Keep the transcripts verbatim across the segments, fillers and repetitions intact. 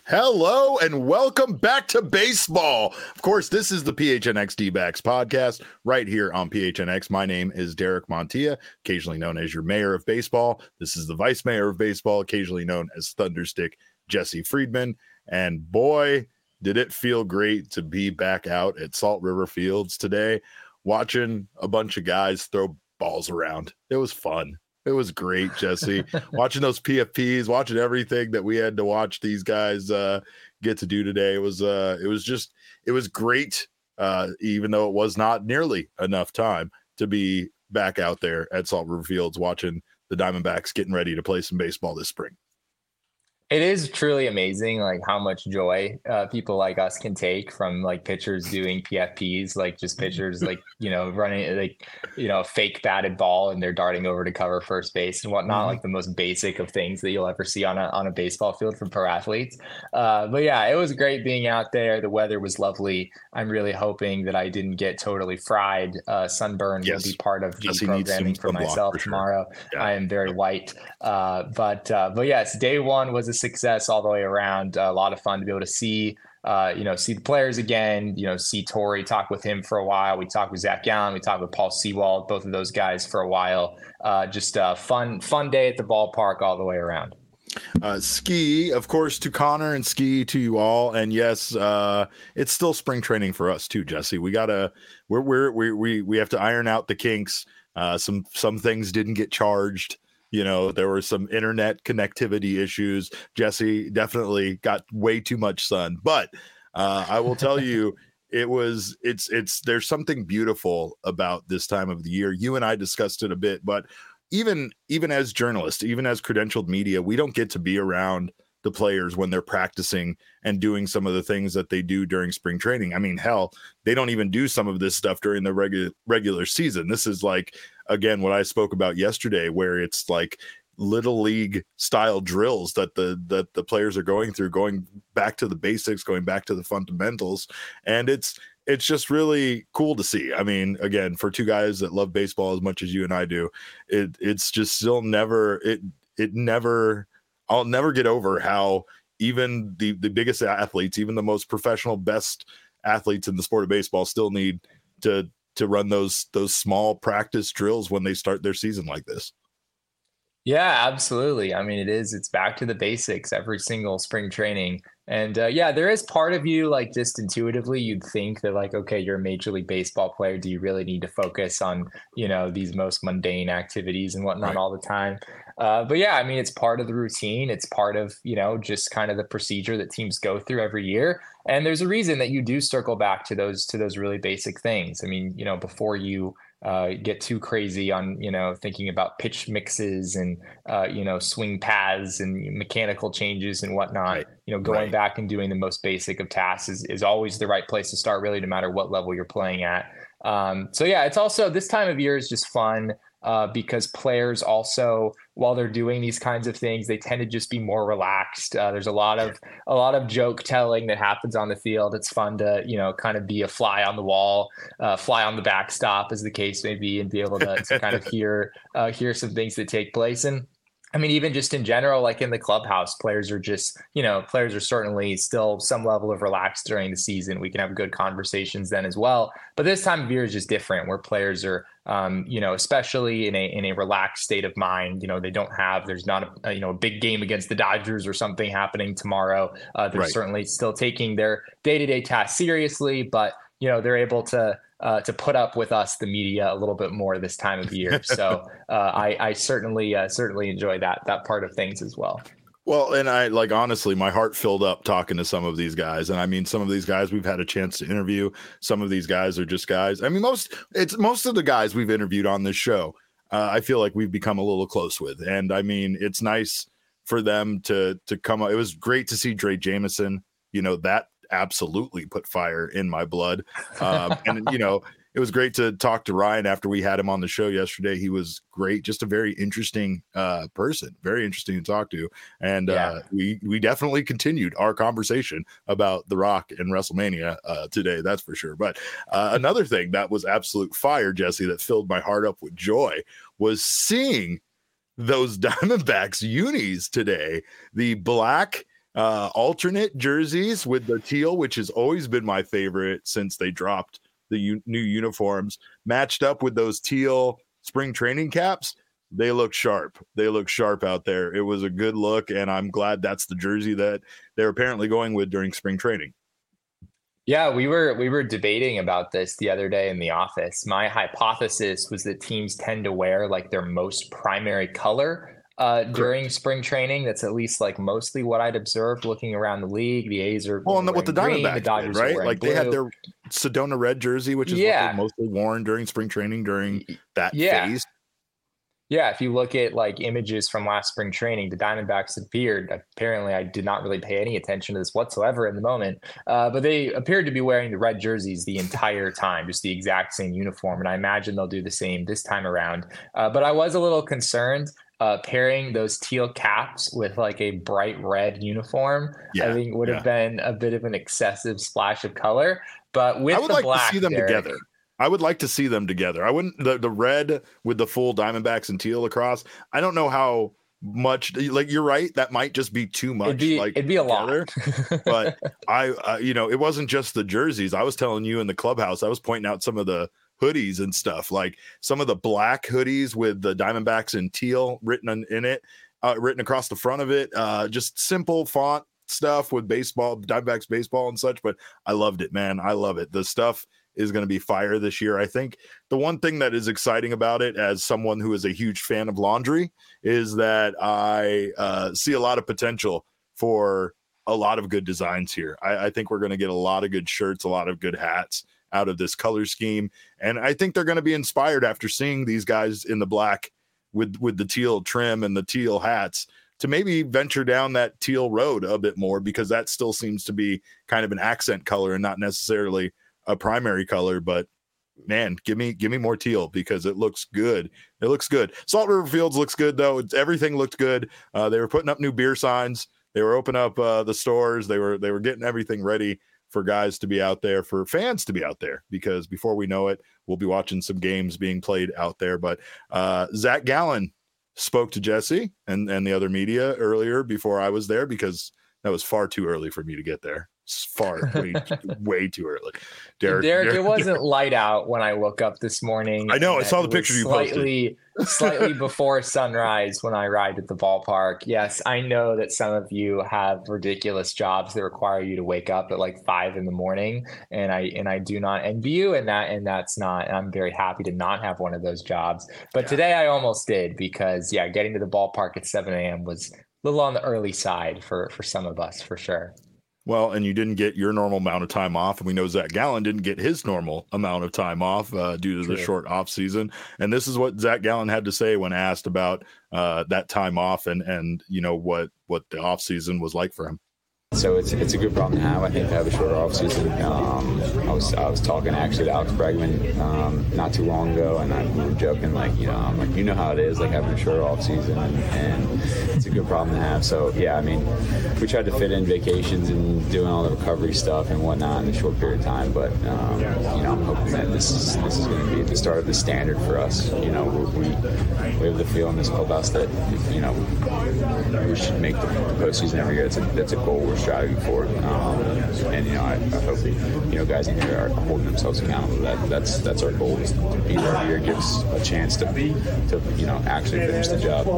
Hello and welcome back to baseball. Of course, this is the P H N X D-backs podcast right here on P H N X. My name is Derek Montilla, occasionally known as your mayor of baseball. This is the vice mayor of baseball, occasionally known as Thunderstick Jesse Friedman. And boy, did it feel great to be back out at Salt River Fields today, watching a bunch of guys throw balls around. It was fun. It was great, Jesse. Watching those P F Ps, watching everything that we had to watch these guys uh, get to do today. It was uh, it was just it was great, uh, even though it was not nearly enough time to be back out there at Salt River Fields watching the Diamondbacks getting ready to play some baseball this spring. It is truly amazing, like how much joy uh, people like us can take from like pitchers doing P F Ps, like just pitchers like, you know, running like, you know, a fake batted ball and they're darting over to cover first base and whatnot, mm-hmm. like the most basic of things that you'll ever see on a on a baseball field from pro athletes. Uh, but yeah, it was great being out there. The weather was lovely. I'm really hoping that I didn't get totally fried. Uh, sunburn yes. will be part of the Jesse programming for myself for sure. tomorrow. Yeah. I am very white. Uh, but uh, but yes, day one was a success all the way around. Uh, a lot of fun to be able to see, uh, you know, see the players again, you know, see Torey, talk with him for a while. We talked with Zach Gallen. We talked with Paul Sewald, both of those guys for a while. Uh, just a fun, fun day at the ballpark all the way around. Uh, ski, of course, to Connor and ski to you all. And yes, uh, it's still spring training for us too, Jesse. We gotta, we're, we're, we, we, we have to iron out the kinks. Uh, some, some things didn't get charged. You know, there were some internet connectivity issues. Jesse definitely got way too much sun, but uh, I will tell you, it was, it's, it's, there's something beautiful about this time of the year. You and I discussed it a bit, but even, even as journalists, even as credentialed media, we don't get to be around the players when they're practicing and doing some of the things that they do during spring training. I mean, hell, they don't even do some of this stuff during the regular regular season. This is like, again, what I spoke about yesterday, where it's like little league style drills that the that the players are going through, going back to the basics, going back to the fundamentals. And it's it's just really cool to see. I mean, again, for two guys that love baseball as much as you and I do, it it's just still never it it never I'll never get over how even the, the biggest athletes, even the most professional, best athletes in the sport of baseball still need to to run those those small practice drills when they start their season like this. Yeah, absolutely. I mean, it is. It's back to the basics every single spring training. And uh, yeah, there is part of you, like just intuitively, you'd think that like, okay, you're a Major League Baseball player. Do you really need to focus on, you know, these most mundane activities and whatnot right. all the time? Uh, but yeah, I mean, it's part of the routine. It's part of, you know, just kind of the procedure that teams go through every year. And there's a reason that you do circle back to those to those really basic things. I mean, you know, before you uh, get too crazy on, you know, thinking about pitch mixes and, uh, you know, swing paths and mechanical changes and whatnot, right. you know, going right. back and doing the most basic of tasks is, is always the right place to start, really, no matter what level you're playing at. Um, so, yeah, it's also this time of year is just fun. Uh, because players also, while they're doing these kinds of things, they tend to just be more relaxed. Uh, there's a lot of a lot of joke telling that happens on the field. It's fun to, you know, kind of be a fly on the wall, uh, fly on the backstop, as the case may be, and be able to, to kind of hear uh, hear some things that take place. And I mean, even just in general, like in the clubhouse, players are just, you know, players are certainly still some level of relaxed during the season. We can have good conversations then as well. But this time of year is just different, where players are, um, you know, especially in a in a relaxed state of mind. You know, they don't have, there's not a, a you know, a big game against the Dodgers or something happening tomorrow. Uh, they're right. certainly still taking their day-to-day tasks seriously, but, you know, they're able to, Uh, to put up with us, the media, a little bit more this time of year. So uh, I, I certainly, uh, certainly enjoy that, that part of things as well. Well, and I like, honestly, my heart filled up talking to some of these guys. And I mean, some of these guys we've had a chance to interview. Some of these guys are just guys. I mean, most it's most of the guys we've interviewed on this show, uh, I feel like we've become a little close with. And I mean, it's nice for them to, to come up. It was great to see Dre Jameson, you know, that absolutely put fire in my blood. Um, and, you know, it was great to talk to Ryan after we had him on the show yesterday. He was great. Just a very interesting uh, person, very interesting to talk to. And yeah. uh, we, we definitely continued our conversation about The Rock and WrestleMania uh, today. That's for sure. But uh, another thing that was absolute fire, Jesse, that filled my heart up with joy was seeing those Diamondbacks unis today, the black uh, alternate jerseys with the teal, which has always been my favorite since they dropped the u- new uniforms, matched up with those teal spring training caps. They look sharp. They look sharp out there. It was a good look, and I'm glad that's the jersey that they're apparently going with during spring training. Yeah, we were we were debating about this the other day in the office. My hypothesis was that teams tend to wear like their most primary color uh, during spring training. That's at least like mostly what I'd observed looking around the league. The A's are well, and what the Diamondbacks the Dodgers did, right? Like blue. They had their Sedona red jersey, which is yeah. what they mostly worn during spring training during that yeah. phase. Yeah, if you look at like images from last spring training, the Diamondbacks appeared, apparently I did not really pay any attention to this whatsoever in the moment, uh, but they appeared to be wearing the red jerseys the entire time, just the exact same uniform. And I imagine they'll do the same this time around. Uh, but I was a little concerned uh, pairing those teal caps with like a bright red uniform. Yeah, I think would have yeah. been a bit of an excessive splash of color. But with I would the like black, to see them Derek, together. I would like to see them together. I wouldn't the, the red with the full Diamondbacks and teal across. I don't know how much like you're right. That might just be too much. It'd be, like it'd be a together. lot. But I, uh, you know, it wasn't just the jerseys. I was telling you in the clubhouse. I was pointing out some of the hoodies and stuff, like some of the black hoodies with the Diamondbacks and teal written in, in it, uh, written across the front of it. Uh, just simple font stuff with baseball, Diamondbacks baseball and such. But I loved it, man. I love it. The stuff is going to be fire this year. I think the one thing that is exciting about it, as someone who is a huge fan of laundry, is that I uh, see a lot of potential for a lot of good designs here. I, I think we're going to get a lot of good shirts, a lot of good hats out of this color scheme. And I think they're going to be inspired after seeing these guys in the black with, with the teal trim and the teal hats to maybe venture down that teal road a bit more, because that still seems to be kind of an accent color and not necessarily a primary color. But man, give me give me more teal, because it looks good. It looks good. Salt River Fields looks good though. It's, everything looked good. Uh, they were putting up new beer signs. They were opening up uh, the stores. They were they were getting everything ready for guys to be out there, for fans to be out there, because before we know it, we'll be watching some games being played out there. But uh, Zach Gallen spoke to Jesse and and the other media earlier before I was there, because that was far too early for me to get there. Far way, way too early. Derek, Derek, Derek, it wasn't Derek. light out when I woke up this morning. I know. I saw the picture you slightly, posted. Slightly before sunrise when I arrived at the ballpark. Yes, I know that some of you have ridiculous jobs that require you to wake up at like five in the morning, and I and I do not envy you, and that and that's not. And I'm very happy to not have one of those jobs. But yeah. Today I almost did, because yeah, getting to the ballpark at seven a.m. was a little on the early side for for some of us, for sure. Well, and you didn't get your normal amount of time off. And we know Zach Gallen didn't get his normal amount of time off uh, due to True. the short off season. And this is what Zach Gallen had to say when asked about uh, that time off and, and, you know, what, what the off season was like for him. So it's it's a good problem to have. I think to have a shorter offseason. Um, I was I was talking actually to Alex Bregman um, not too long ago, and I, we were joking like you know I'm like you know how it is like having a shorter offseason, and, and it's a good problem to have. So yeah, I mean we tried to fit in vacations and doing all the recovery stuff and whatnot in a short period of time, but um, you know I'm hoping that this is this is going to be the start of the standard for us. You know we we have the feel in this clubhouse that you know we should make the, the postseason every year. That's a that's a goal we're striving for, um, and you know, I, I hope you know guys in here are holding themselves accountable to that. That's that's our goal, is to be there every year, give us a chance to to you know actually finish the job.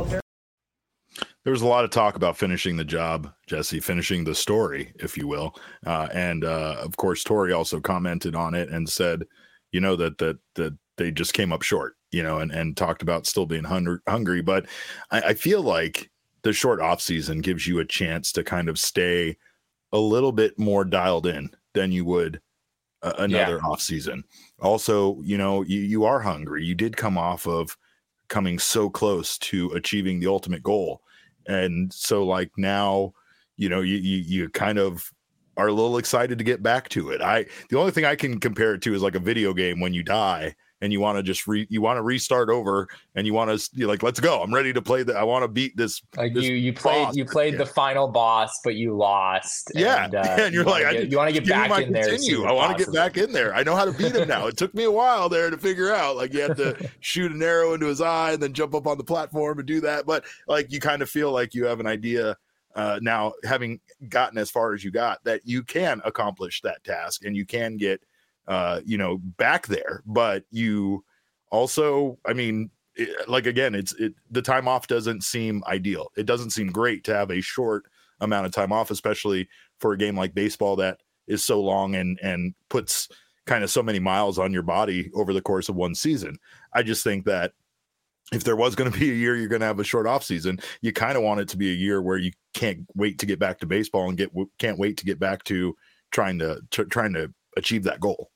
There was a lot of talk about finishing the job, Jesse, finishing the story, if you will, uh, and uh, of course, Tori also commented on it and said, you know, that that that they just came up short, you know, and and talked about still being hungry, hungry. But I, I feel like the short off season gives you a chance to kind of stay a little bit more dialed in than you would uh, another yeah. off season. Also, you know, you, you are hungry. You did come off of coming so close to achieving the ultimate goal. And so like now, you know, you, you, you kind of are a little excited to get back to it. I, the only thing I can compare it to is like a video game when you die and you want to just re you want to restart over and you want to like, let's go. I'm ready to play that. I want to beat this. Like this you, you played, you played the final boss, but you lost. Yeah. And, uh, and you're you like, get, I, you want to get back in there. I want to get back in there. I know how to beat him now. It took me a while there to figure out, like you have to shoot an arrow into his eye and then jump up on the platform and do that. But like, you kind of feel like you have an idea uh, now having gotten as far as you got, that you can accomplish that task and you can get, uh, you know, back there. But you also, I mean, it, like, again, it's it, the time off doesn't seem ideal. It doesn't seem great to have a short amount of time off, especially for a game like baseball that is so long and, and puts kind of so many miles on your body over the course of one season. I just think that if there was going to be a year you're going to have a short off season, you kind of want it to be a year where you can't wait to get back to baseball and get can't wait to get back to trying to, to trying to achieve that goal.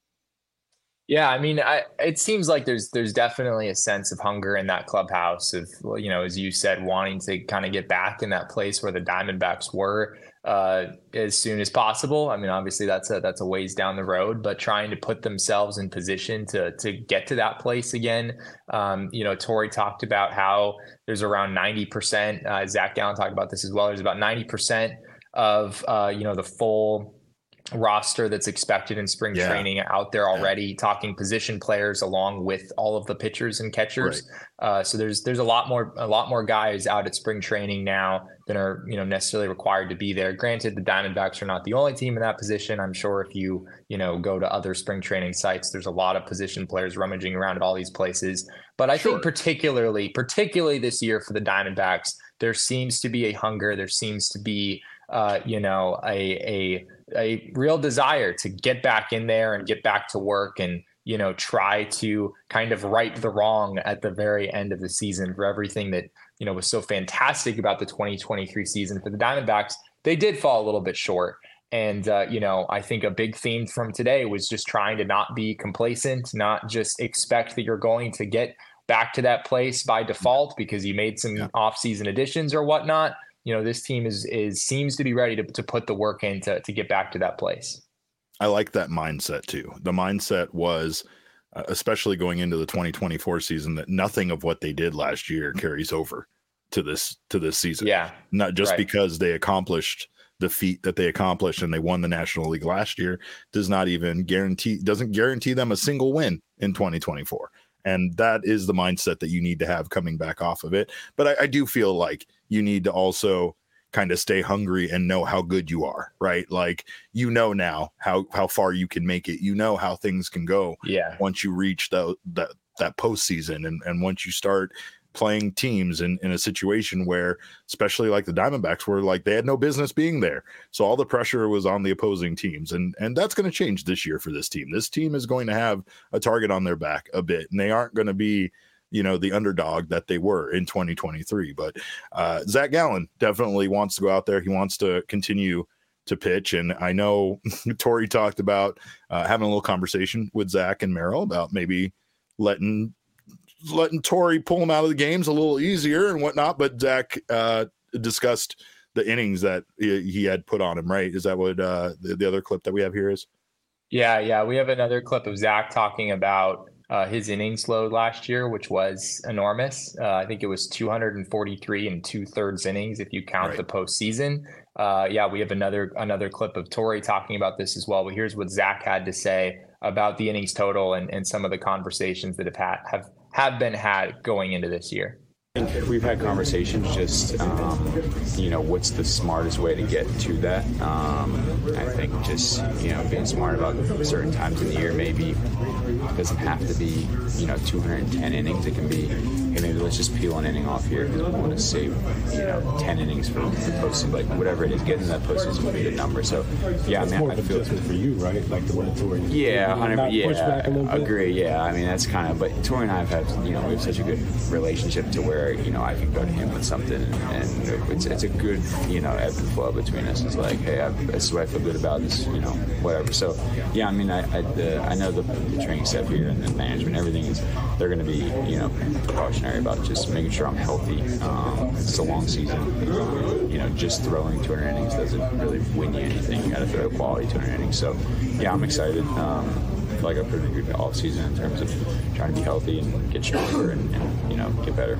Yeah, I mean, I, it seems like there's there's definitely a sense of hunger in that clubhouse of, you know, as you said, wanting to kind of get back in that place where the Diamondbacks were uh, as soon as possible. I mean, obviously that's a that's a ways down the road, but trying to put themselves in position to to get to that place again. Um, you know, Torey talked about how there's around ninety percent. Uh, Zach Gallen talked about this as well. There's about ninety percent of uh, you know the full roster that's expected in spring yeah. training out there already, yeah. talking position players along with all of the pitchers and catchers. Right. Uh, so there's there's a lot more a lot more guys out at spring training now than are, you know, necessarily required to be there. Granted, the Diamondbacks are not the only team in that position. I'm sure if you, you know, go to other spring training sites, there's a lot of position players rummaging around at all these places. But I sure. think particularly, particularly this year for the Diamondbacks, there seems to be a hunger. There seems to be, uh, you know, a a a real desire to get back in there and get back to work and, you know, try to kind of right the wrong at the very end of the season for everything that, you know, was so fantastic about the twenty twenty-three season for the Diamondbacks. They did fall a little bit short. And, uh, you know, I think a big theme from today was just trying to not be complacent, not just expect that you're going to get back to that place by default because you made some yeah. off-season additions or whatnot. You know, this team is is seems to be ready to, to put the work in to, to get back to that place. I like that mindset too. The mindset was, uh, especially going into the twenty twenty-four season, that nothing of what they did last year carries over to this to this season. Yeah, not just right. because they accomplished the feat that they accomplished and they won the National League last year does not even guarantee doesn't guarantee them a single win in twenty twenty-four. And that is the mindset that you need to have coming back off of it. But I, I do feel like you need to also kind of stay hungry and know how good you are, right? Like, you know, now how, how far you can make it, you know, how things can go yeah. once you reach the, that, that postseason. And, and once you start playing teams in, in a situation where, especially like the Diamondbacks, were like, they had no business being there. So all the pressure was on the opposing teams. And, and that's going to change this year for this team. This team is going to have a target on their back a bit, and they aren't going to be, you know, the underdog that they were in twenty twenty-three. But uh, Zach Gallen definitely wants to go out there. He wants to continue to pitch. And I know Torey talked about uh, having a little conversation with Zach and Merrill about maybe letting letting Torey pull him out of the games a little easier and whatnot. But Zach uh, discussed the innings that he, he had put on him, right? Is that what uh, the, the other clip that we have here is? Yeah, yeah. We have another clip of Zach talking about Uh, his innings load last year, which was enormous. Uh, I think it was two hundred forty-three and two thirds innings if you count right. the postseason. Uh, yeah, we have another another clip of Torey talking about this as well. But here's what Zach had to say about the innings total and, and some of the conversations that have had, have have been had going into this year. I think we've had conversations just, um, you know, what's the smartest way to get to that. Um, I think just, you know, being smart about certain times in the year. Maybe it doesn't have to be, you know, two hundred ten innings. It can be, hey, maybe let's just peel an inning off here because we want to save, you know, ten innings for the postseason. Like, whatever it is, getting that postseason would be the number. So, yeah, that's I mean, more I of feel adjustment for you, right? Like the way Torey. Yeah, one hundred Yeah, agree. Yeah, I mean, that's kind of, but Torey and I have had, you know, we have such a good relationship to where, you know, I can go to him with something, and it's it's a good, you know, ebb and flow between us. It's like, hey, I, this is what I feel good about, this, you know, whatever. So, yeah, I mean, I I, the, I know the, the training staff here and the management, everything is, they're going to be, you know, precautionary about just making sure I'm healthy. Um, it's a long season. Um, you know, just throwing two hundred innings doesn't really win you anything. You got to throw quality two hundred innings. So, yeah, I'm excited. Um, I feel like a pretty good off season in terms of trying to be healthy and get stronger and, and you know, get better.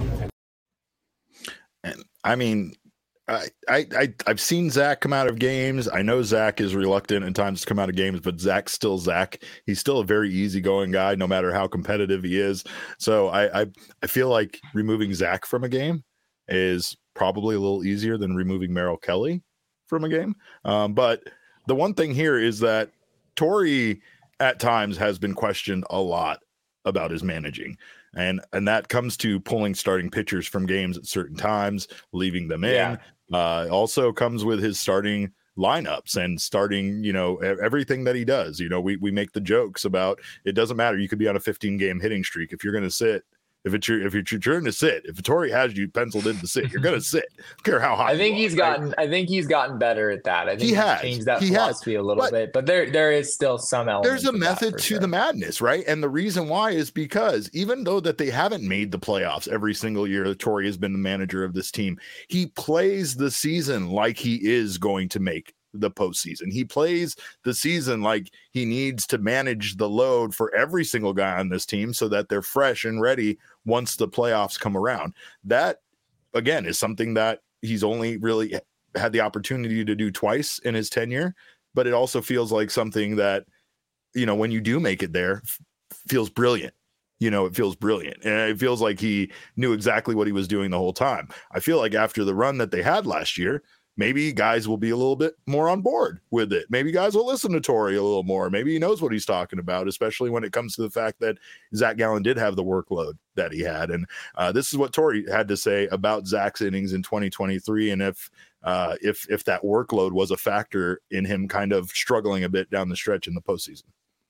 And I mean, I, I, I, I've seen Zach come out of games. I know Zach is reluctant at times to come out of games, but Zach's still Zach. He's still a very easygoing guy, no matter how competitive he is. So I, I, I feel like removing Zach from a game is probably a little easier than removing Merrill Kelly from a game. Um, but the one thing here is that Torrey at times has been questioned a lot about his managing. And and that comes to pulling starting pitchers from games at certain times, leaving them in. Yeah. Uh, also comes with his starting lineups and starting, you know, everything that he does. You know, we we make the jokes about it doesn't matter. You could be on a fifteen game hitting streak if you're going to sit. If it's your if it's your turn to sit, if Torrey has you penciled in to sit, you're gonna sit. I don't care how high. I think he's are, gotten. right? I think he's gotten better at that. I think he he's has changed that he philosophy has. a little but bit, but there there is still some element. There's a method to sure. the madness, right? And the reason why is because even though that they haven't made the playoffs every single year that Torrey has been the manager of this team, he plays the season like he is going to make the postseason. He plays the season like he needs to manage the load for every single guy on this team so that they're fresh and ready once the playoffs come around. That, again, is something that he's only really had the opportunity to do twice in his tenure, but it also feels like something that, you know, when you do make it there, f- feels brilliant. You know, it feels brilliant. And it feels like he knew exactly what he was doing the whole time. I feel like after the run that they had last year, maybe guys will be a little bit more on board with it. Maybe guys will listen to Torrey a little more. Maybe he knows what he's talking about, especially when it comes to the fact that Zach Gallen did have the workload that he had. And uh, this is what Torrey had to say about Zach's innings in twenty twenty-three. And if uh, if if that workload was a factor in him kind of struggling a bit down the stretch in the postseason.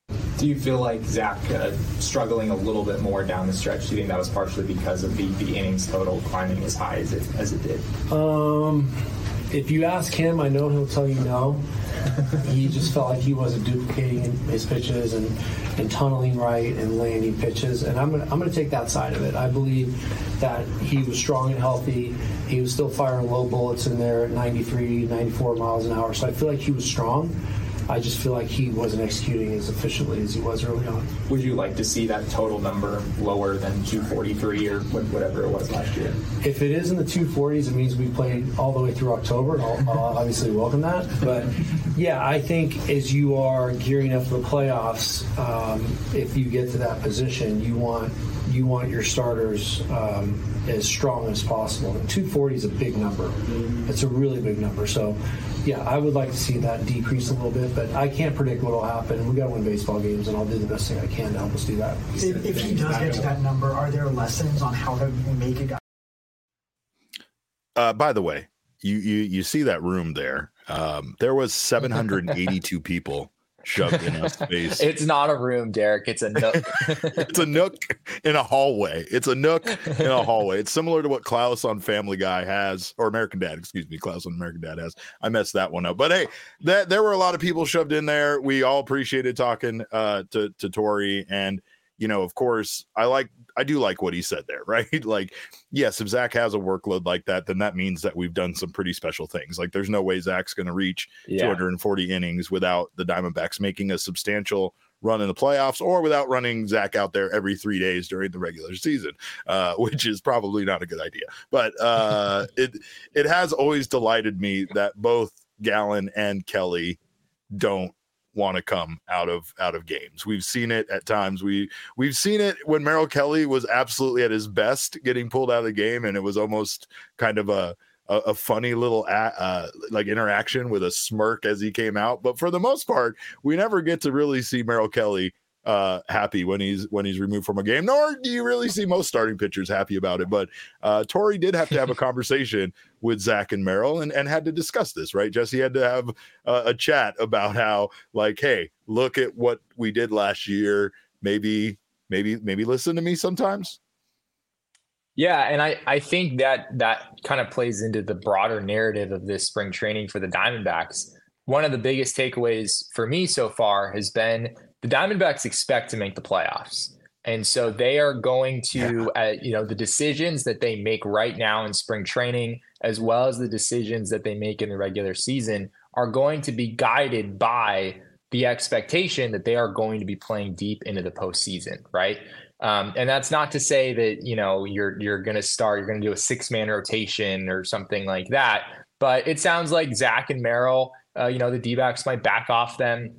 Do you feel like Zach uh, struggling a little bit more down the stretch? Do you think that was partially because of the, the innings total climbing as high as it as it did? Um. If you ask him, I know he'll tell you no. He just felt like he wasn't duplicating his pitches and, and tunneling right and landing pitches. And I'm gonna I'm gonna take that side of it. I believe that he was strong and healthy. He was still firing low bullets in there at ninety-three, ninety-four miles an hour. So I feel like he was strong. I just feel like he wasn't executing as efficiently as he was early on. Would you like to see that total number lower than two forty-three or whatever it was last year? If it is in the two forties, it means we played all the way through October. I'll, I'll obviously welcome that. But, yeah, I think as you are gearing up for the playoffs, um, if you get to that position, you want you want your starters um, as strong as possible. And two forty is a big number. It's a really big number. So, yeah, I would like to see that decrease a little bit, but I can't predict what will happen. We got to win baseball games, and I'll do the best thing I can to help us do that. If, if he does get to that number, are there lessons on how to make a guy? Uh, by the way, you you you see that room there? Um, there was seven hundred eighty-two people shoved in a space. It's not a room, Derek. It's a nook. It's a nook in a hallway. It's a nook in a hallway. It's similar to what Klaus on Family Guy has, or American Dad, excuse me. Klaus on American Dad has. I messed that one up. But hey, that there were a lot of people shoved in there. We all appreciated talking uh, to to Torrey, and you know, of course, I like. I do like what he said there, right? Like, yes, if Zach has a workload like that, then that means that we've done some pretty special things. Like, there's no way Zach's going to reach yeah. two hundred forty innings without the Diamondbacks making a substantial run in the playoffs, or without running Zach out there every three days during the regular season, uh, which is probably not a good idea. But uh, it it has always delighted me that both Gallen and Kelly don't want to come out of out of games. We've seen it at times. We we've seen it when Merrill Kelly was absolutely at his best, getting pulled out of the game, and it was almost kind of a a, a funny little uh, like interaction with a smirk as he came out. But for the most part, we never get to really see Merrill Kelly uh, happy when he's when he's removed from a game. Nor do you really see most starting pitchers happy about it. But uh, Torrey did have to have a conversation with Zach and Merrill and, and had to discuss this, right? Jesse had to have uh, a chat about how, like, hey, look at what we did last year. Maybe, maybe, maybe listen to me sometimes. Yeah, and I, I think that that kind of plays into the broader narrative of this spring training for the Diamondbacks. One of the biggest takeaways for me so far has been the Diamondbacks expect to make the playoffs. And so they are going to, uh, you know, the decisions that they make right now in spring training, as well as the decisions that they make in the regular season, are going to be guided by the expectation that they are going to be playing deep into the postseason, right? Um, and that's not to say that, you know, you're you're going to start, you're going to do a six-man rotation or something like that. But it sounds like Zach and Merrill, uh, you know, the D-backs might back off them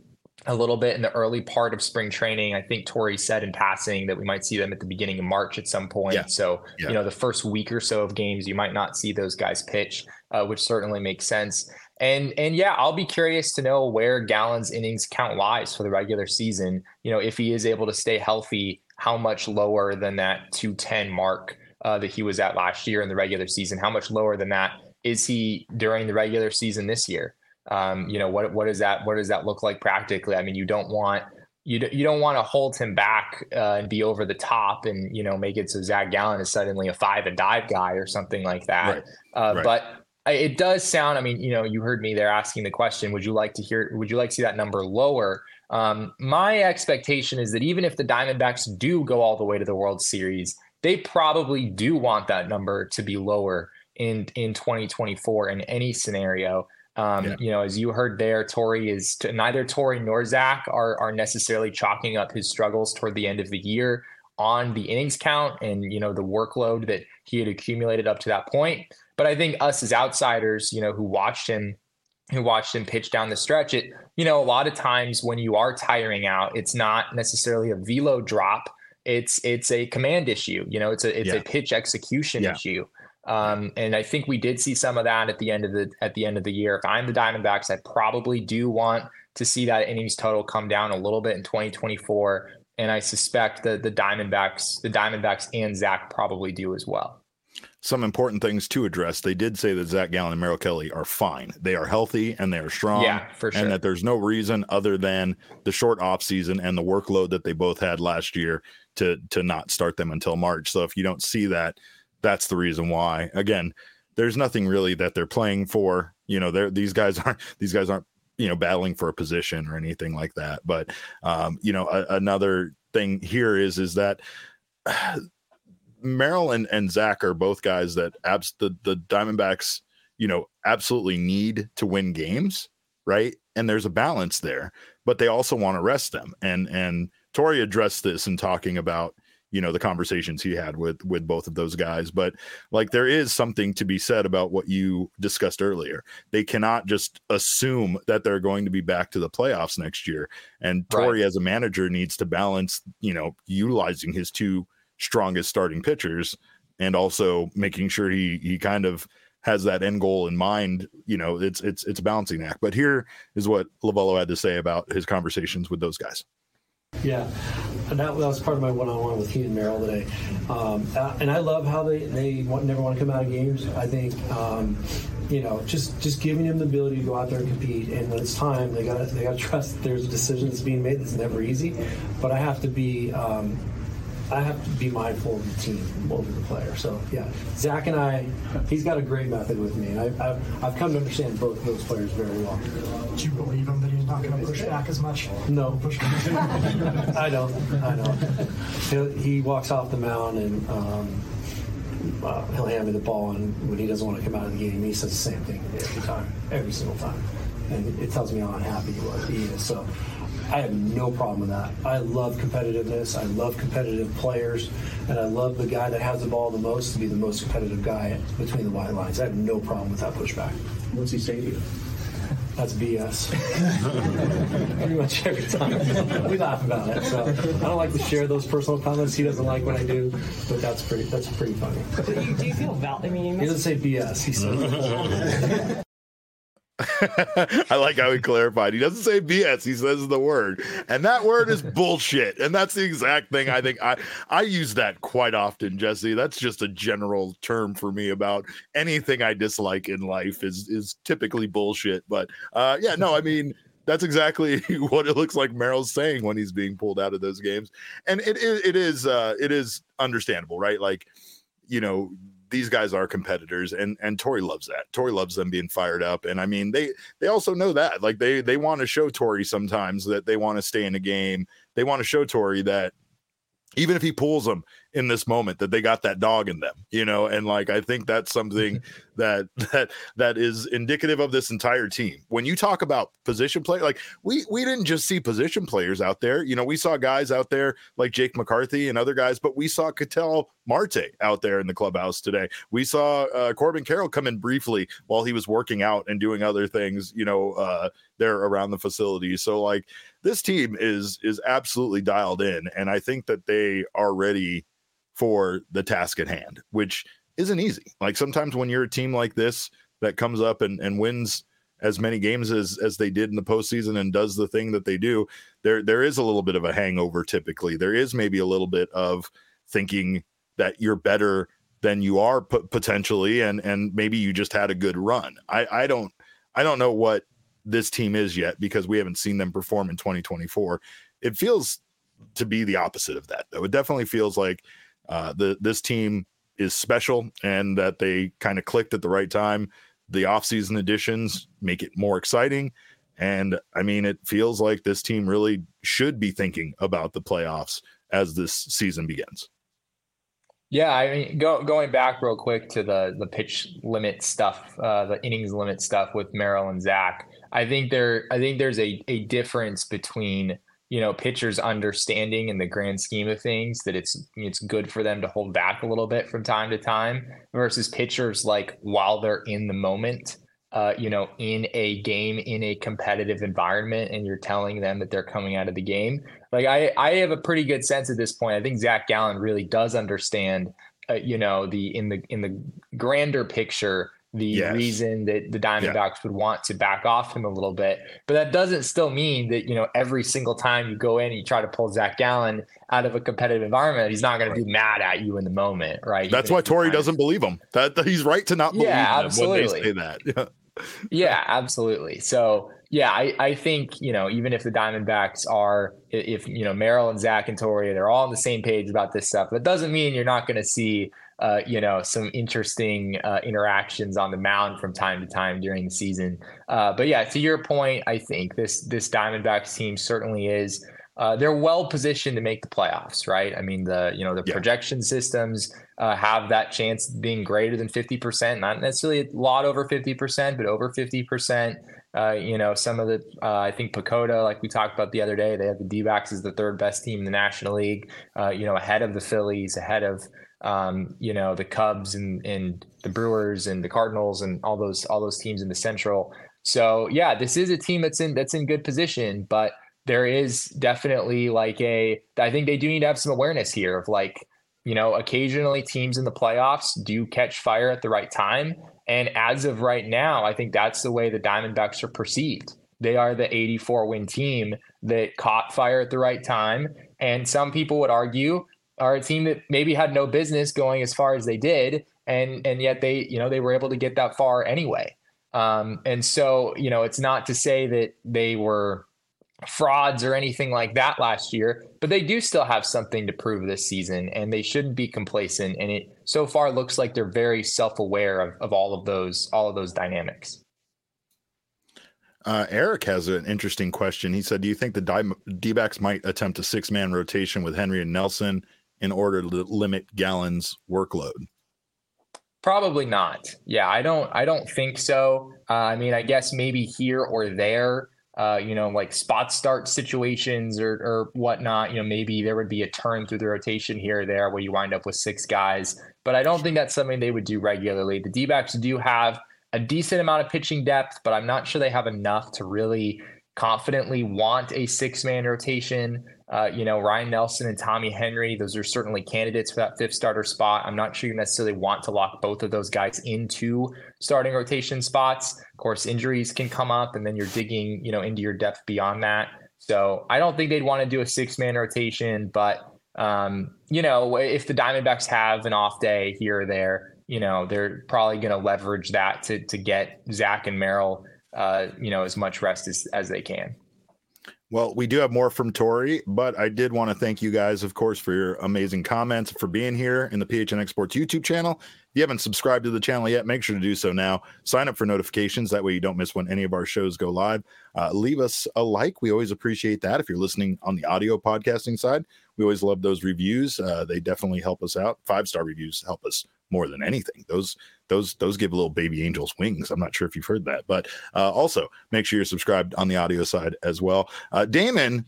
a little bit in the early part of spring training. I think Torrey said in passing that we might see them at the beginning of March at some point. Yeah. So, yeah. you know, the first week or so of games, you might not see those guys pitch, uh, which certainly makes sense. And, and yeah, I'll be curious to know where Gallen's innings count lies for the regular season. You know, if he is able to stay healthy, how much lower than that two ten mark uh, that he was at last year in the regular season? How much lower than that is he during the regular season this year? Um, you know, what, what does that, what does that look like practically? I mean, you don't want, you, you don't want to hold him back uh, and be over the top and, you know, make it so Zach Gallen is suddenly a five and dive guy or something like that. Right. Uh, right. But it does sound, I mean, you know, you heard me there asking the question, would you like to hear, would you like to see that number lower? Um, my expectation is that even if the Diamondbacks do go all the way to the World Series, they probably do want that number to be lower in, in twenty twenty-four in any scenario. Um, yeah. You know, as you heard there, Torrey is to, neither Torrey nor Zach are, are necessarily chalking up his struggles toward the end of the year on the innings count and, you know, the workload that he had accumulated up to that point. But I think us as outsiders, you know, who watched him, who watched him pitch down the stretch, it, you know, a lot of times when you are tiring out, it's not necessarily a velo drop. It's, it's a command issue. You know, it's a, it's yeah. a pitch execution yeah. issue. Um, and I think we did see some of that at the end of the, at the end of the year. If I'm the Diamondbacks, I probably do want to see that innings total come down a little bit in twenty twenty-four. And I suspect that the Diamondbacks, the Diamondbacks and Zach probably do as well. Some important things to address. They did say that Zach Gallen and Merrill Kelly are fine. They are healthy and they are strong. Yeah, for sure. And that there's no reason other than the short off season and the workload that they both had last year to, to not start them until March. So if you don't see that, that's the reason why. Again, there's nothing really that they're playing for. You know, they're, these guys aren't, these guys aren't, you know, battling for a position or anything like that. But, um, you know, a, another thing here is, is that uh, Merrill and, and Zach are both guys that abs- the, the Diamondbacks, you know, absolutely need to win games. Right. And there's a balance there, but they also want to rest them. And, and Torrey addressed this in talking about, you know, the conversations he had with, with both of those guys. But like, there is something to be said about what you discussed earlier. They cannot just assume that they're going to be back to the playoffs next year. And Torrey, right, as a manager, needs to balance, you know, utilizing his two strongest starting pitchers and also making sure he, he kind of has that end goal in mind. You know, it's, it's, it's a balancing act. But here is what Lovullo had to say about his conversations with those guys. Yeah, and that, that was part of my one-on-one with Keaton Merrill today. Um, uh, and I love how they, they want, never want to come out of games. I think, um, you know, just, just giving them the ability to go out there and compete. And when it's time, they got they got to trust that there's a decision that's being made that's never easy. But I have to be um, I have to be mindful of the team over the player. So, yeah, Zach and I, he's got a great method with me. And I, I've, I've come to understand both of those players very well. Do you believe him that he's not going to push back as much? No. I don't. I don't. He, he walks off the mound and um, uh, he'll hand me the ball. And when he doesn't want to come out of the game, he says the same thing every time, every single time. And it tells me how unhappy he was. He is. So I have no problem with that. I love competitiveness. I love competitive players. And I love the guy that has the ball the most to be the most competitive guy between the white lines. I have no problem with that pushback. What's he say to you? That's B S. Pretty much every time. We laugh about it. So I don't like to share those personal comments. He doesn't like when I do, but that's pretty that's pretty funny. Do you, do you feel val- I mean, he doesn't say B S. He says I like how he clarified. He doesn't say B S. He says the word, and that word is bullshit. And that's the exact thing. I think I I use that quite often, Jesse. That's just a general term for me about anything I dislike in life is is typically bullshit. But uh, yeah, no, I mean that's exactly what it looks like Merrill's saying when he's being pulled out of those games, and it it, it is uh, it is understandable, right? Like, you know, these guys are competitors, and and Torrey loves that. Torrey loves them being fired up, and I mean they they also know that. Like they they want to show Torrey sometimes that they want to stay in a game. They want to show Torrey that even if he pulls them in this moment, that they got that dog in them, you know. And like I think that's something that that that is indicative of this entire team. When you talk about position play, like we we didn't just see position players out there. You know, we saw guys out there like Jake McCarthy and other guys, but we saw Ketel Marte out there in the clubhouse today. We saw uh, Corbin Carroll come in briefly while he was working out and doing other things, you know, uh, there around the facility. So like this team is is absolutely dialed in, and I think that they are ready for the task at hand, which isn't easy. Like sometimes when you're a team like this that comes up and, and wins as many games as as they did in the postseason and does the thing that they do, there there is a little bit of a hangover. Typically, there is maybe a little bit of thinking that you're better than you are p- potentially, and and maybe you just had a good run. I I don't I don't know what this team is yet because we haven't seen them perform in twenty twenty-four. It feels to be the opposite of that, though. It definitely feels like uh, the this team is special and that they kind of clicked at the right time. The offseason additions make it more exciting. And I mean, it feels like this team really should be thinking about the playoffs as this season begins. Yeah, I mean, go, going back real quick to the the pitch limit stuff, uh, the innings limit stuff with Merrill and Zach. I think there, I think there's a a difference between, you know, pitchers understanding in the grand scheme of things that it's it's good for them to hold back a little bit from time to time versus pitchers like while they're in the moment, uh, you know, in a game, in a competitive environment, and you're telling them that they're coming out of the game. Like I, I have a pretty good sense at this point. I think Zach Gallen really does understand, uh, you know, the in the in the grander picture, the yes. reason that the Diamondbacks yeah. would want to back off him a little bit. But that doesn't still mean that, you know, every single time you go in and you try to pull Zach Gallen out of a competitive environment, he's not going to be mad at you in the moment, right? That's Even why Torey doesn't of... believe him. That, that he's right to not believe yeah, him absolutely. when they say that. Yeah, absolutely. So yeah, I, I think, you know, even if the Diamondbacks are, if, you know, Merrill and Zach and Torey, they're all on the same page about this stuff, that doesn't mean you're not going to see Uh, you know, some interesting uh, interactions on the mound from time to time during the season. Uh, but yeah, to your point, I think this this Diamondbacks team certainly is. Uh, they're well positioned to make the playoffs, right? I mean, the you know the yeah. projection systems uh, have that chance of being greater than fifty percent, not necessarily a lot over fifty percent, but over fifty percent. Uh, you know, some of the, uh, I think Pacoda, like we talked about the other day, they have the D-backs as the third best team in the National League, uh, you know, ahead of the Phillies, ahead of, um, you know, the Cubs and, and the Brewers and the Cardinals and all those, all those teams in the Central. So yeah, this is a team that's in, that's in good position, but there is definitely like a, I think they do need to have some awareness here of like, you know, occasionally teams in the playoffs do catch fire at the right time. And as of right now, I think that's the way the Diamondbacks are perceived. They are the eighty-four win team that caught fire at the right time. And some people would argue are a team that maybe had no business going as far as they did. And, and yet they, you know, they were able to get that far anyway. Um, and so, you know, it's not to say that they were frauds or anything like that last year, but they do still have something to prove this season, and they shouldn't be complacent. And it so far looks like they're very self-aware of, of all of those, all of those dynamics. Uh, Eric has an interesting question. He said, do you think the D-backs might attempt a six man rotation with Henry and Nelson in order to limit Gallen's workload? Probably not. Yeah, I don't, I don't think so. Uh, I mean, I guess maybe here or there, Uh, you know, like spot start situations or, or whatnot, you know, maybe there would be a turn through the rotation here or there where you wind up with six guys. But I don't think that's something they would do regularly. The D-backs do have a decent amount of pitching depth, but I'm not sure they have enough to really confidently want a six-man rotation. Uh, you know, Ryan Nelson and Tommy Henry, those are certainly candidates for that fifth starter spot. I'm not sure you necessarily want to lock both of those guys into starting rotation spots. Of course, injuries can come up, and then you're digging, you know, into your depth beyond that. So I don't think they'd want to do a six-man rotation, but, um, you know, if the Diamondbacks have an off day here or there, you know, they're probably going to leverage that to to get Zach and Merrill, uh, you know, as much rest as, as they can. Well, we do have more from Torey, but I did want to thank you guys, of course, for your amazing comments, for being here in the P H N X Sports YouTube channel. If you haven't subscribed to the channel yet, make sure to do so now. Sign up for notifications. That way you don't miss when any of our shows go live. Uh, leave us a like. We always appreciate that. If you're listening on the audio podcasting side, we always love those reviews. Uh, they definitely help us out. Five-star reviews help us more than anything. Those those those give little baby angels wings. I'm not sure if you've heard that, but uh, also make sure you're subscribed on the audio side as well. Uh, Damon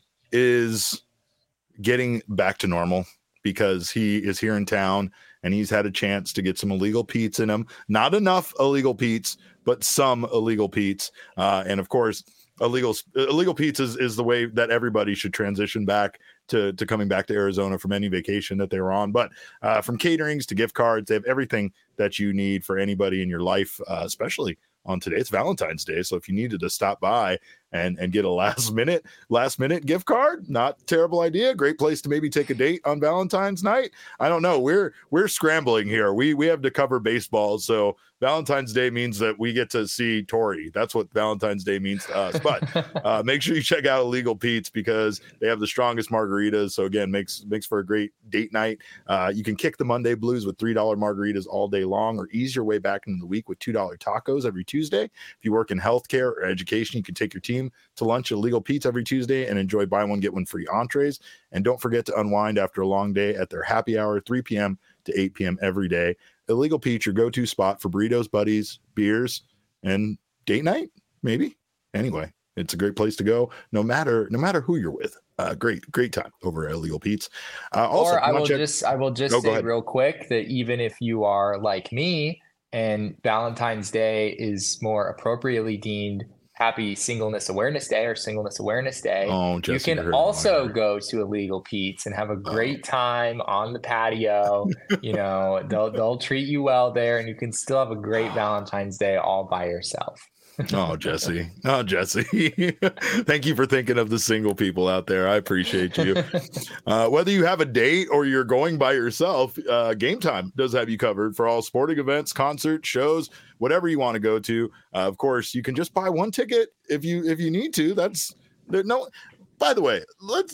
is getting back to normal because he is here in town and he's had a chance to get some illegal Pete's in him. Not enough illegal Pete's, but some illegal Pete's. Uh, and of course, illegal illegal Pete's is, is the way that everybody should transition back to, to coming back to Arizona from any vacation that they were on. But uh, from caterings to gift cards, they have everything that you need for anybody in your life, uh, especially on today. It's Valentine's Day. So if you needed to stop by and, and get a last minute, last minute gift card, not terrible idea. Great place to maybe take a date on Valentine's night. I don't know. We're, we're scrambling here. We, we have to cover baseball. So Valentine's Day means that we get to see Tori. That's what Valentine's Day means to us. But uh, make sure you check out Illegal Pete's because they have the strongest margaritas. So again, makes makes for a great date night. Uh, you can kick the Monday blues with three dollar margaritas all day long, or ease your way back into the week with two dollar tacos every Tuesday. If you work in healthcare or education, you can take your team to lunch at Illegal Pete's every Tuesday and enjoy buy one, get one free entrees. And don't forget to unwind after a long day at their happy hour, three p.m. to eight p.m. every day. Illegal Pete's, your go-to spot for burritos, buddies, beers, and date night, maybe. Anyway, it's a great place to go, no matter no matter who you're with. Uh, great, great time over at Illegal Pete's. Uh, also, or I will check... just I will just oh, say real quick that even if you are like me and Valentine's Day is more appropriately deemed Happy Singleness Awareness Day or Singleness Awareness Day, oh, Jesse, you can also go to Illegal Pete's and have a great oh. time on the patio. You know, they'll they'll treat you well there, and you can still have a great Valentine's Day all by yourself. Oh, Jesse. Oh, Jesse. Thank you for thinking of the single people out there. I appreciate you. Uh, whether you have a date or you're going by yourself, uh, Game Time does have you covered for all sporting events, concerts, shows, whatever you want to go to. Uh, of course, you can just buy one ticket if you if you need to. That's there. No. By the way, let's.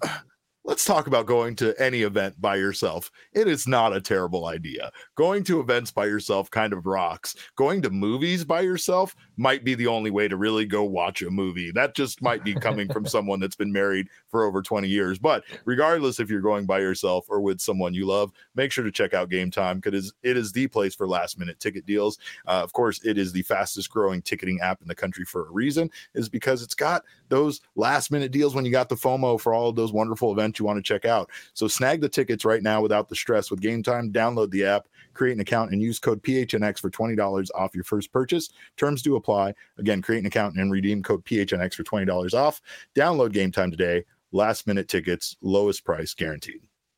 Let's talk about going to any event by yourself. It is not a terrible idea. Going to events by yourself kind of rocks. Going to movies by yourself might be the only way to really go watch a movie. That just might be coming from someone that's been married for over twenty years. But regardless if you're going by yourself or with someone you love, make sure to check out Game Time because it is the place for last minute ticket deals. Uh, of course, it is the fastest growing ticketing app in the country for a reason, is because it's got those last minute deals when you got the FOMO for all of those wonderful events you want to check out. So snag the tickets right now without the stress with Game Time. Download the app, create an account, and use code P H N X for twenty dollars off your first purchase. Terms do apply. Again, create an account and redeem code P H N X for twenty dollars off. Download Game Time today. Last minute tickets, lowest price guaranteed.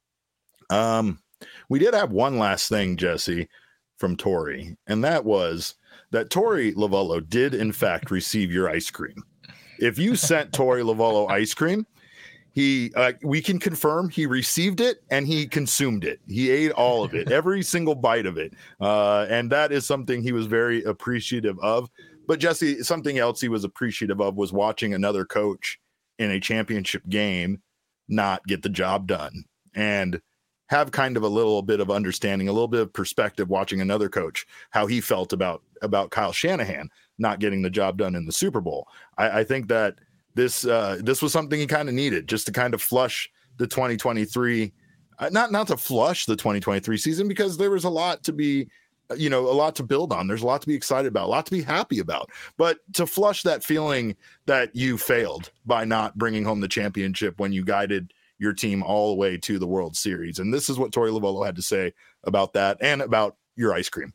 Um, we did have one last thing, Jesse, from Tori, and that was that Tori Lavallo did in fact receive your ice cream. If you sent Tori Lavallo ice cream, He, uh, we can confirm he received it and he consumed it. He ate all of it, every single bite of it. Uh, and that is something he was very appreciative of. But Jesse, something else he was appreciative of was watching another coach in a championship game not get the job done and have kind of a little bit of understanding, a little bit of perspective watching another coach, how he felt about, about Kyle Shanahan not getting the job done in the Super Bowl. I, I think that This uh, this was something he kind of needed just to kind of flush the twenty twenty-three, uh, not not to flush the twenty twenty-three season, because there was a lot to be, you know, a lot to build on. There's a lot to be excited about, a lot to be happy about. But to flush that feeling that you failed by not bringing home the championship when you guided your team all the way to the World Series. And this is what Tori Lavallo had to say about that and about your ice cream.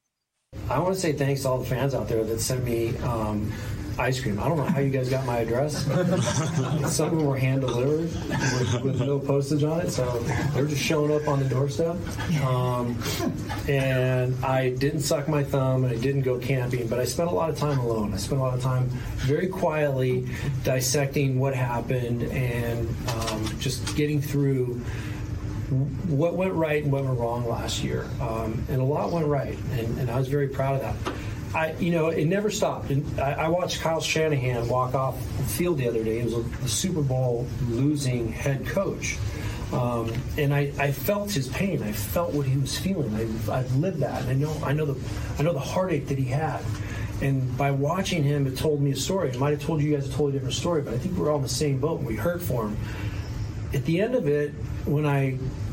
I want to say thanks to all the fans out there that sent me um, ice cream. I don't know how you guys got my address. Some of them were hand delivered with, with no postage on it, so they're just showing up on the doorstep. Um, and I didn't suck my thumb and I didn't go camping, but I spent a lot of time alone. I spent a lot of time very quietly dissecting what happened and um, just getting through what went right and what went wrong last year. Um, and a lot went right, and, and I was very proud of that. I, you know, it never stopped. And I, I watched Kyle Shanahan walk off the field the other day. He was a, a Super Bowl losing head coach. Um, and I, I felt his pain. I felt what he was feeling. I, I've lived that. And I know, I know the, I know the heartache that he had. And by watching him, it told me a story. It might have told you guys a totally different story, but I think we're all in the same boat and we hurt for him. At the end of it, when I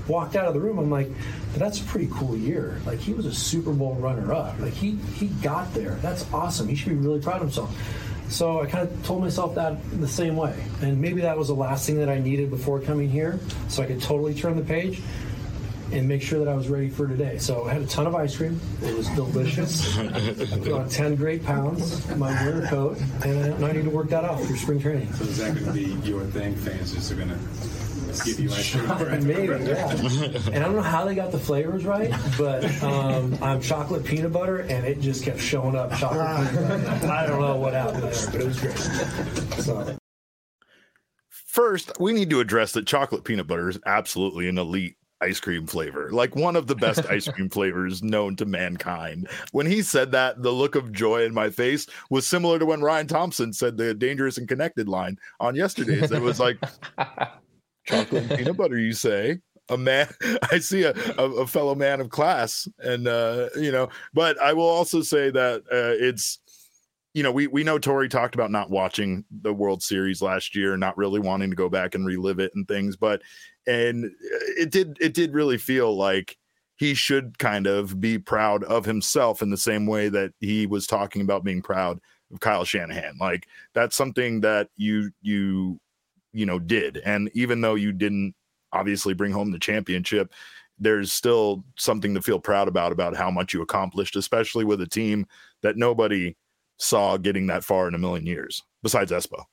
walked out of the room. I'm like, but that's a pretty cool year. Like, he was a Super Bowl runner-up. Like, he he got there. That's awesome. He should be really proud of himself. So I kind of told myself that the same way. And maybe that was the last thing that I needed before coming here, so I could totally turn the page and make sure that I was ready for today. So I had a ton of ice cream. It was delicious. I put on ten great pounds, my winter coat, and I need to work that out through spring training. So is that going to be your thing? Fans just are going to give you ice cream? Maybe, yeah. And I don't know how they got the flavors right, but um, I'm chocolate peanut butter, and it just kept showing up chocolate peanut butter. I don't know what happened there, but it was great. So. First, we need to address that chocolate peanut butter is absolutely an elite ice cream flavor, like one of the best ice cream flavors known to mankind. When he said that, the look of joy in my face was similar to when Ryan Thompson said the Dangerous and Connected line on yesterday's. It was like, chocolate and peanut butter, you say? A man, I see a, a, a fellow man of class, and uh, you know. But I will also say that uh, it's, you know, we we know Torey talked about not watching the World Series last year, not really wanting to go back and relive it and things, but and it did it did really feel like he should kind of be proud of himself in the same way that he was talking about being proud of Kyle Shanahan. Like, that's something that you you you know did, and even though you didn't obviously bring home the championship, there's still something to feel proud about about how much you accomplished, especially with a team that nobody saw getting that far in a million years besides Espo.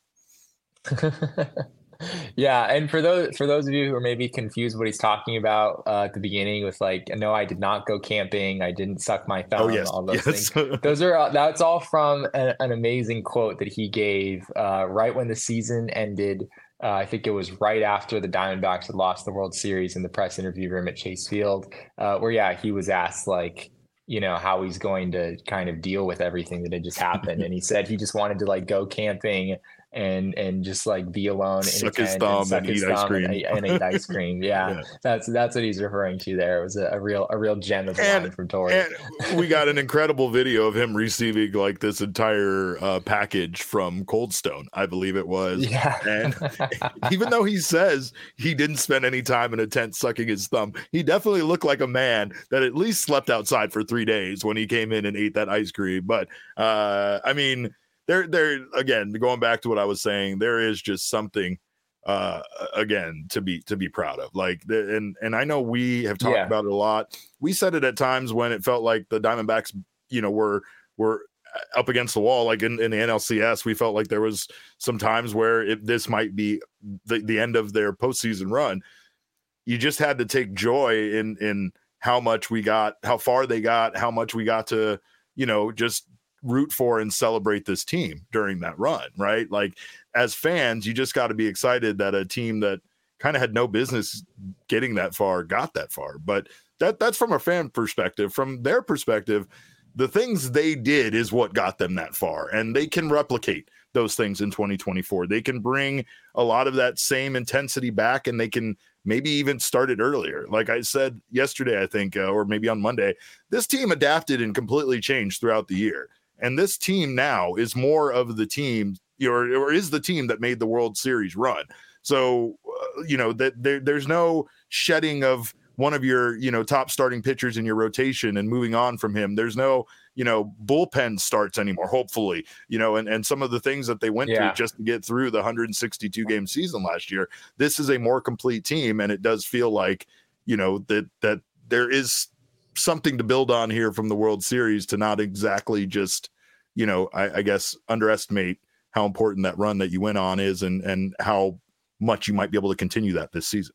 Yeah, and for those for those of you who are maybe confused what he's talking about uh, at the beginning with like, no, I did not go camping, I didn't suck my thumb, oh, yes. all those yes. things. Those are uh, that's all from a, an amazing quote that he gave uh, right when the season ended. Uh, I think it was right after the Diamondbacks had lost the World Series, in the press interview room at Chase Field, uh, where yeah, he was asked like, you know, how he's going to kind of deal with everything that had just happened, and he said he just wanted to like go camping and and just like be alone, suck in a his tent thumb and, suck and his eat thumb ice cream and, and eat ice cream. Yeah, yeah, that's that's what he's referring to there. It was a, a real a real gem of a line from Torey. And we got an incredible video of him receiving like this entire uh, package from Cold Stone, I believe it was. Yeah. And even though he says he didn't spend any time in a tent sucking his thumb, he definitely looked like a man that at least slept outside for three days when he came in and ate that ice cream. But uh, I mean. There, there again, going back to what I was saying, there is just something, uh, again, to be to be proud of. Like, the, and and I know we have talked yeah. about it a lot. We said it at times when it felt like the Diamondbacks, you know, were were up against the wall. Like in, in the N L C S, we felt like there was some times where it, this might be the, the end of their postseason run. You just had to take joy in in how much we got, how far they got, how much we got to, you know, just root for and celebrate this team during that run, right? Like, as fans, you just got to be excited that a team that kind of had no business getting that far got that far. But that that's from a fan perspective. From their perspective, the things they did is what got them that far, and they can replicate those things in twenty twenty-four. They can bring a lot of that same intensity back, and they can maybe even start it earlier. Like I said yesterday, I think, uh, or maybe on Monday, this team adapted and completely changed throughout the year. And this team now is more of the team, or, or is the team that made the World Series run. So, uh, you know, that there, there's no shedding of one of your, you know, top starting pitchers in your rotation and moving on from him. There's no, you know, bullpen starts anymore, hopefully, you know, and, and some of the things that they went yeah. through just to get through the one hundred sixty-two game season last year. This is a more complete team. And it does feel like, you know, that, that there is something to build on here from the World Series, to not exactly just, you know, I, I guess underestimate how important that run that you went on is, and and how much you might be able to continue that this season.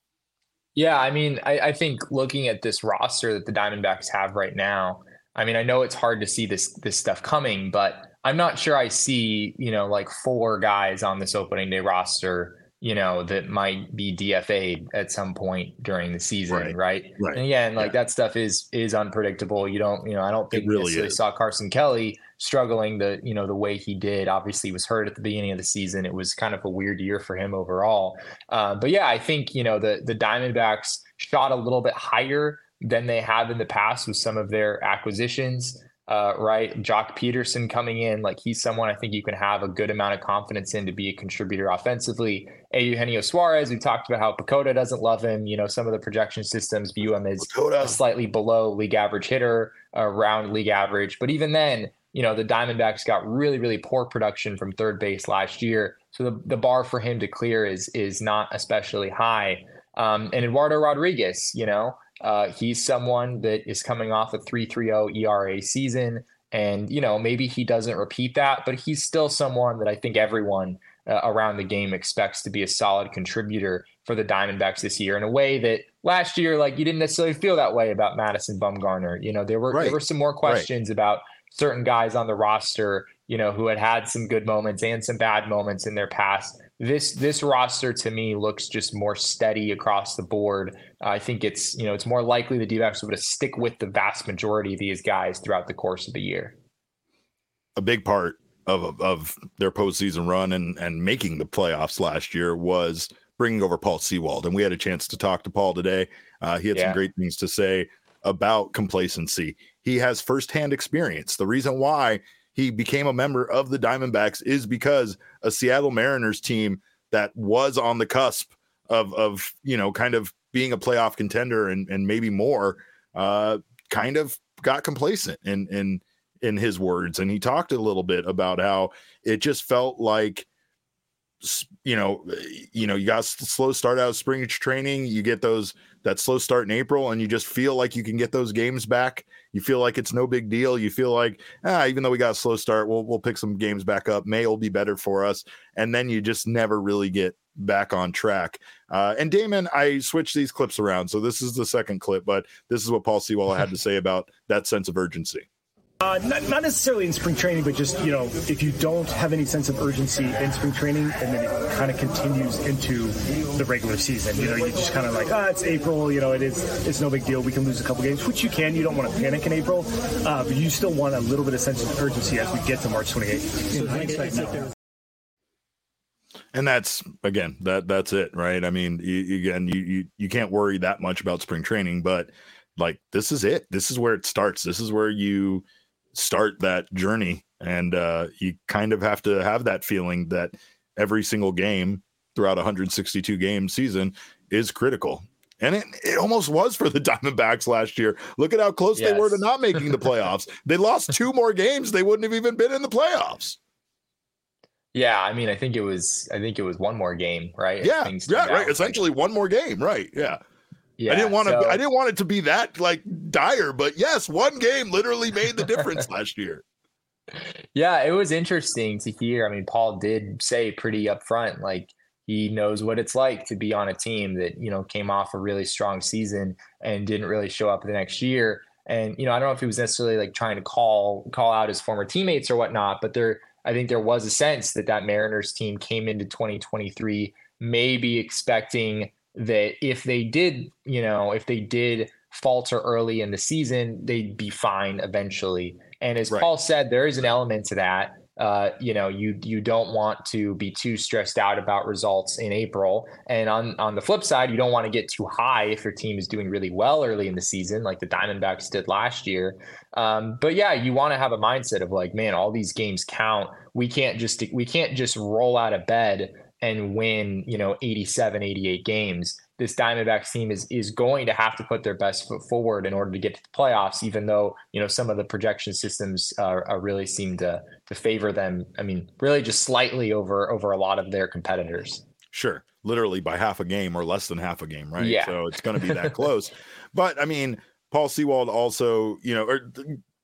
Yeah, I mean, I, I think looking at this roster that the Diamondbacks have right now, I mean, I know it's hard to see this this stuff coming, but I'm not sure I see, you know, like four guys on this opening day roster, you know, that might be D F A'd at some point during the season, right? Right. right. And again, like yeah. that stuff is is unpredictable. You don't, you know, I don't think really necessarily is. saw Carson Kelly struggling the, you know, the way he did. Obviously, he was hurt at the beginning of the season. It was kind of a weird year for him overall. Uh, but yeah, I think, you know, the the Diamondbacks shot a little bit higher than they have in the past with some of their acquisitions. uh, right? Jock Peterson coming in, like he's someone I think you can have a good amount of confidence in to be a contributor offensively. Eugenio Suarez, we talked about how Pacoda doesn't love him. You know, some of the projection systems view him as Pacoda. a slightly below league average hitter, around league average. But even then, you know, the Diamondbacks got really, really poor production from third base last year. So the, the bar for him to clear is is not especially high. Um, and Eduardo Rodriguez, you know, uh, he's someone that is coming off a three point three oh E R A season. And, you know, maybe he doesn't repeat that, but he's still someone that I think everyone uh, around the game expects to be a solid contributor for the Diamondbacks this year in a way that last year, like you didn't necessarily feel that way about Madison Bumgarner. You know, there were, right. there were some more questions right. about certain guys on the roster, you know, who had had some good moments and some bad moments in their past. This this roster to me looks just more steady across the board. Uh, I think it's, you know, it's more likely the D-backs would stick with the vast majority of these guys throughout the course of the year. A big part of of their postseason run and and making the playoffs last year was bringing over Paul Sewald, and we had a chance to talk to Paul today. Uh, he had yeah. some great things to say about complacency. He has firsthand experience. The reason why he became a member of the Diamondbacks is because a Seattle Mariners team that was on the cusp of, of you know, kind of being a playoff contender and, and maybe more, uh, kind of got complacent in, in, in his words. And he talked a little bit about how it just felt like, you know, you know, you got a slow start out of spring training, you get those, that slow start in April, and you just feel like you can get those games back. You feel like it's no big deal. You feel like, ah, even though we got a slow start, we'll, we'll pick some games back up. May will be better for us. And then you just never really get back on track. Uh, and Damon, I switched these clips around. So this is the second clip, but this is what Paul Sewald had to say about that sense of urgency. Uh, not, not necessarily in spring training, but just, you know, if you don't have any sense of urgency in spring training and then it kind of continues into the regular season, you know, you just kind of like, ah, it's April, you know, it is, it's no big deal. We can lose a couple games, which you can. You don't want to panic in April, uh, but you still want a little bit of sense of urgency as we get to March twenty-eighth. And that's, again, that that's it, right? I mean, you, again, you, you, you can't worry that much about spring training, but like, this is it. This is where it starts. This is where you start that journey, and uh you kind of have to have that feeling that every single game throughout a one hundred sixty-two game season is critical, and it, it almost was for the Diamondbacks last year. Look at how close yes. they were to not making the playoffs. They lost two more games, they wouldn't have even been in the playoffs. Yeah, I mean, I think it was I think it was one more game, right? Yeah, yeah, right. Essentially one more game, right? Yeah. Yeah, I didn't want to. So, I didn't want it to be that like dire, but yes, one game literally made the difference last year. Yeah, it was interesting to hear. I mean, Paul did say pretty upfront, like he knows what it's like to be on a team that, you know, came off a really strong season and didn't really show up the next year. And, you know, I don't know if he was necessarily like trying to call call out his former teammates or whatnot, but there, I think there was a sense that that Mariners team came into twenty twenty-three maybe expecting that if they did, you know, if they did falter early in the season, they'd be fine eventually. And as right. Paul said, there is an element to that. Uh, you know, you you don't want to be too stressed out about results in April. And on, on the flip side, you don't want to get too high if your team is doing really well early in the season, like the Diamondbacks did last year. Um, but yeah, you want to have a mindset of like, man, all these games count. We can't just we can't just roll out of bed and win, you know, eighty-seven, eighty-eight games. This Diamondbacks team is is going to have to put their best foot forward in order to get to the playoffs, even though, you know, some of the projection systems uh, are really seem to to favor them. I mean, really just slightly over over a lot of their competitors. Sure. Literally by half a game or less than half a game, right? Yeah. So it's going to be that close. But I mean, Paul Sewald also, you know, or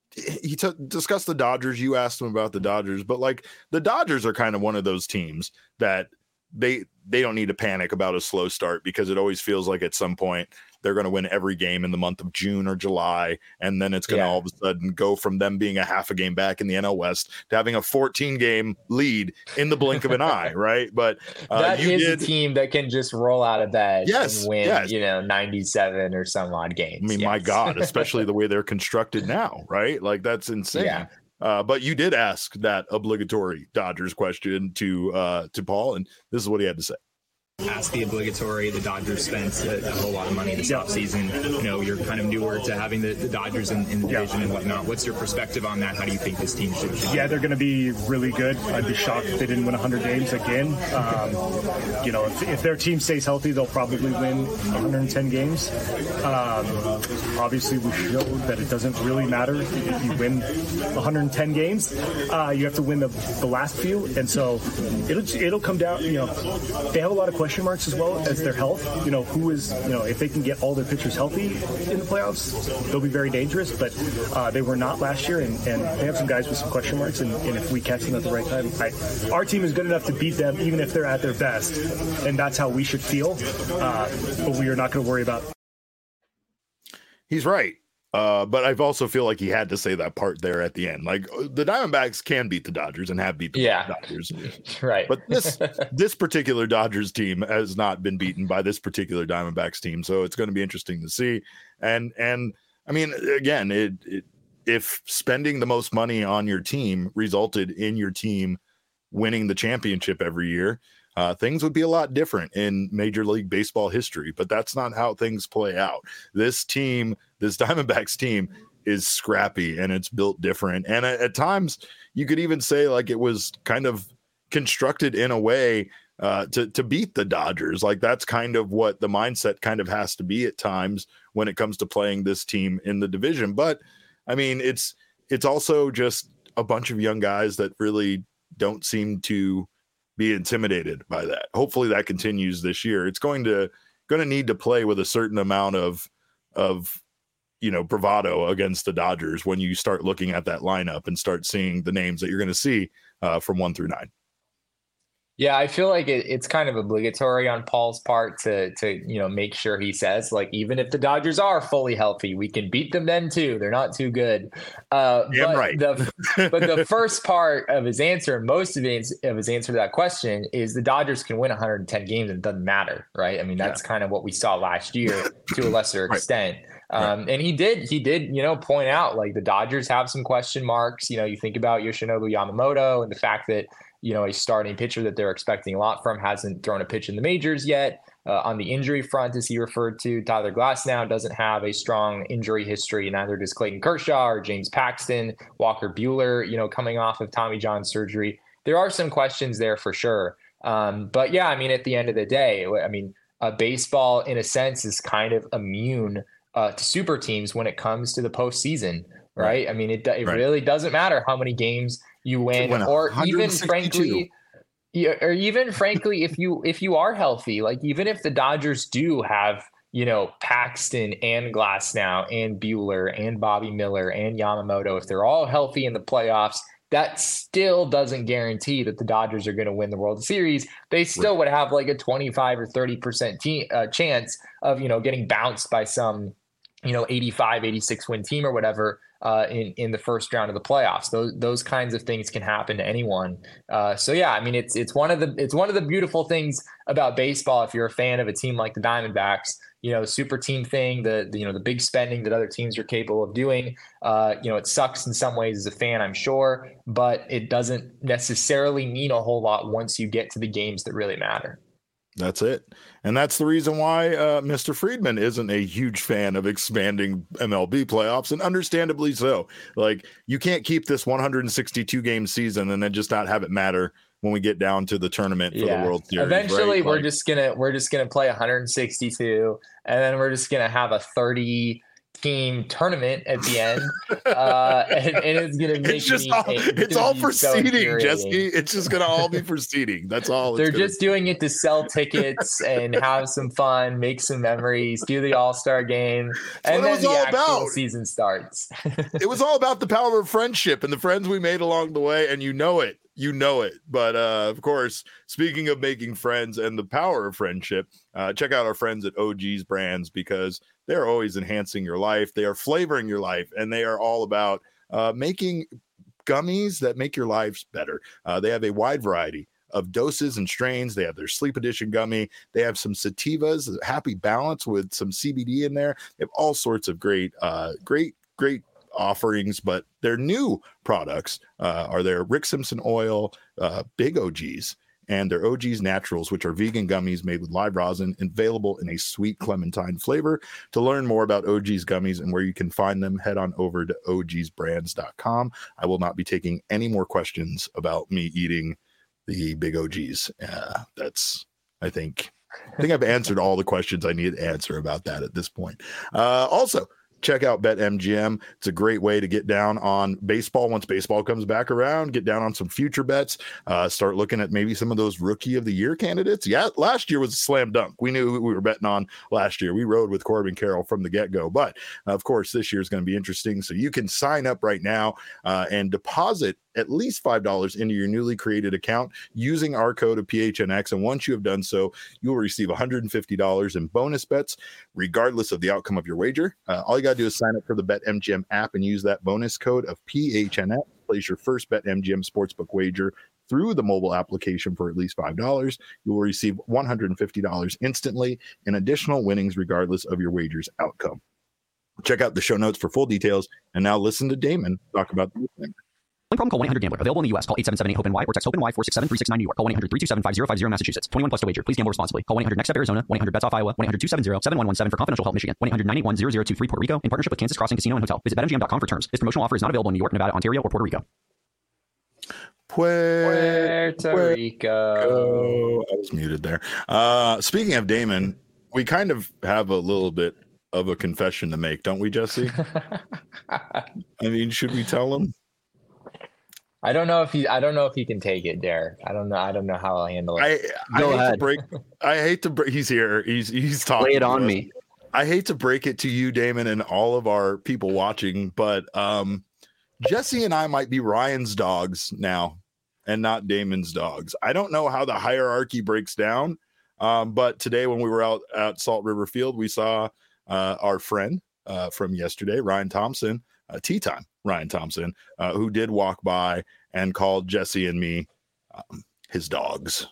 he t- discussed the Dodgers. You asked him about the Dodgers, but like the Dodgers are kind of one of those teams that they they don't need to panic about a slow start, because it always feels like at some point they're going to win every game in the month of June or July, and then it's going to yeah. all of a sudden go from them being a half a game back in the N L West to having a fourteen game lead in the blink of an eye, right? But uh, that you is did... a team that can just roll out of bed yes, and win, yes. you know, ninety-seven or some odd games. I mean, yes. my God, especially the way they're constructed now, right? Like that's insane. Yeah. Uh, but you did ask that obligatory Dodgers question to uh, to Paul, and this is what he had to say. ask the obligatory. The Dodgers spent a, a whole lot of money this yeah. offseason. You know, you're kind of newer to having the, the Dodgers in, in the division yeah. and whatnot. What's your perspective on that? How do you think this team should? Yeah, they're going to be really good. I'd be shocked if they didn't win one hundred games again. Um, you know, if, if their team stays healthy, they'll probably win one hundred ten games. Um, obviously, we showed that it doesn't really matter if you win one hundred ten games. Uh, you have to win the, the last few, and so it'll it'll come down. You know, they have a lot of questions marks as well as their health. You know, who is, you know, if they can get all their pitchers healthy in the playoffs, they'll be very dangerous, but uh, they were not last year, and, and they have some guys with some question marks, and, and if we catch them at the right time, I, our team is good enough to beat them even if they're at their best, and that's how we should feel, uh, but we are not going to worry about. He's right. Uh, but I also feel like he had to say that part there at the end. Like, the Diamondbacks can beat the Dodgers and have beat the yeah. Dodgers. Right. But this this particular Dodgers team has not been beaten by this particular Diamondbacks team. So it's going to be interesting to see. And, and I mean, again, it, it if spending the most money on your team resulted in your team winning the championship every year, Uh, things would be a lot different in Major League Baseball history, but that's not how things play out. This team, this Diamondbacks team, is scrappy and it's built different. And at, at times, you could even say like it was kind of constructed in a way uh, to to beat the Dodgers. Like that's kind of what the mindset kind of has to be at times when it comes to playing this team in the division. But I mean, it's it's also just a bunch of young guys that really don't seem to be intimidated by that. Hopefully that continues this year. It's going to going to need to play with a certain amount of of you know bravado against the Dodgers when you start looking at that lineup and start seeing the names that you're going to see uh, from one through nine. Yeah, I feel like it, it's kind of obligatory on Paul's part to to you know make sure he says like even if the Dodgers are fully healthy, we can beat them then too. They're not too good. Uh, Damn but right. The, but the first part of his answer, most of his of his answer to that question is the Dodgers can win one hundred ten games and it doesn't matter, right? I mean that's yeah. kind of what we saw last year to a lesser right. extent. Um, right. And he did, he did, you know, point out like the Dodgers have some question marks. You know, you think about Yoshinobu Yamamoto and the fact that, you know, a starting pitcher that they're expecting a lot from hasn't thrown a pitch in the majors yet. Uh, on the injury front, as he referred to, Tyler Glasnow doesn't have a strong injury history. Neither does Clayton Kershaw or James Paxton, Walker Buehler, you know, coming off of Tommy John surgery. There are some questions there for sure. Um, but yeah, I mean, at the end of the day, I mean, uh, baseball in a sense is kind of immune uh, to super teams when it comes to the postseason, right? right. I mean, it, it right. really doesn't matter how many games you win, or even frankly, or even frankly, if you if you are healthy, like even if the Dodgers do have, you know, Paxton and Glasnow and Buehler and Bobby Miller and Yamamoto, if they're all healthy in the playoffs, that still doesn't guarantee that the Dodgers are going to win the World Series. They still right. would have like a twenty-five or thirty percent te- uh, chance of, you know, getting bounced by some, you know, eighty-five, eighty-six win team or whatever. Uh, in, in the first round of the playoffs, those those kinds of things can happen to anyone. Uh, so yeah, I mean it's it's one of the it's one of the beautiful things about baseball. If you're a fan of a team like the Diamondbacks, you know, super team thing, the, the you know the big spending that other teams are capable of doing. Uh, you know, it sucks in some ways as a fan, I'm sure, but it doesn't necessarily mean a whole lot once you get to the games that really matter. That's it. And that's the reason why uh, Mister Friedman isn't a huge fan of expanding M L B playoffs, and understandably so. Like, you can't keep this one hundred sixty-two game season and then just not have it matter when we get down to the tournament for yeah. the World Series. Eventually, right? we're like, just gonna we're just gonna play one hundred sixty-two, and then we're just gonna have a thirty team tournament at the end, uh, and, and it's gonna make it's just me, all, it's, it's all for so seeding, Jesse. It's just gonna all be for seeding. That's all. They're it's just doing it to sell tickets and have some fun, make some memories, do the All-Star game, and then the actual about. season starts. It was all about the power of friendship and the friends we made along the way, and you know it. You know it. But uh, of course, speaking of making friends and the power of friendship, uh, check out our friends at O G's Brands, because they're always enhancing your life. They are flavoring your life, and they are all about uh, making gummies that make your lives better. Uh, they have a wide variety of doses and strains. They have their sleep edition gummy. They have some sativas, Happy Balance with some C B D in there. They have all sorts of great, uh, great, great offerings, but their new products uh, are their Rick Simpson oil, uh, Big O Gs, and their O G's Naturals, which are vegan gummies made with live rosin, available in a sweet clementine flavor. To learn more about O G's gummies and where you can find them, head on over to O Gs brands dot com. I will not be taking any more questions about me eating the big O Gs. Uh, that's, I think, I think I've answered all the questions I need to answer about that at this point. Uh, also, check out BetMGM. It's a great way to get down on baseball once baseball comes back around. Get down on some future bets. Uh, start looking at maybe some of those rookie of the year candidates. Yeah, last year was a slam dunk. We knew who we were betting on last year. We rode with Corbin Carroll from the get-go. But, uh, of course, this year is going to be interesting. So you can sign up right now uh, and deposit at least five dollars into your newly created account using our code of P H N X. And once you have done so, you will receive one hundred fifty dollars in bonus bets, regardless of the outcome of your wager. Uh, all you got to do is sign up for the BetMGM app and use that bonus code of P H N X. Place your first BetMGM sportsbook wager through the mobile application for at least five dollars. You will receive one hundred fifty dollars instantly in additional winnings, regardless of your wager's outcome. Check out the show notes for full details. And now listen to Damon talk about the thing. Problem, call one eight hundred gambler. Available in the U S. Call eight seven seven eight hope N Y or text HOPE-NY four six seven three six nine New York. Call one eight hundred three two seven five zero five zero Massachusetts. twenty-one plus to wager. Please gamble responsibly. Call one eight hundred next step Arizona. one eight hundred bets off Iowa. one eight hundred two seven zero seven one one seven for confidential help Michigan. one eight hundred nine eight one zero zero two three Puerto Rico in partnership with Kansas Crossing Casino and Hotel. Visit bet M G M dot com for terms. This promotional offer is not available in New York, Nevada, Ontario, or Puerto Rico. Puerto, Puerto Rico. Rico. I was muted there. Uh, speaking of Damon, we kind of have a little bit of a confession to make, don't we, Jesse? I mean, should we tell him? I don't know if he. I don't know if he can take it, Derek. I don't know. I don't know how I'll handle it. I, I Go hate ahead. to break. I hate to break. He's here. He's he's talking. Lay it to on us. me. I hate to break it to you, Damon, and all of our people watching, but um, Jesse and I might be Ryan's dogs now, and not Damon's dogs. I don't know how the hierarchy breaks down, um, but today when we were out at Salt River Field, we saw uh, our friend uh, from yesterday, Ryan Thompson, uh, tea time. Ryan Thompson, uh, who did walk by and called Jesse and me um, his dogs.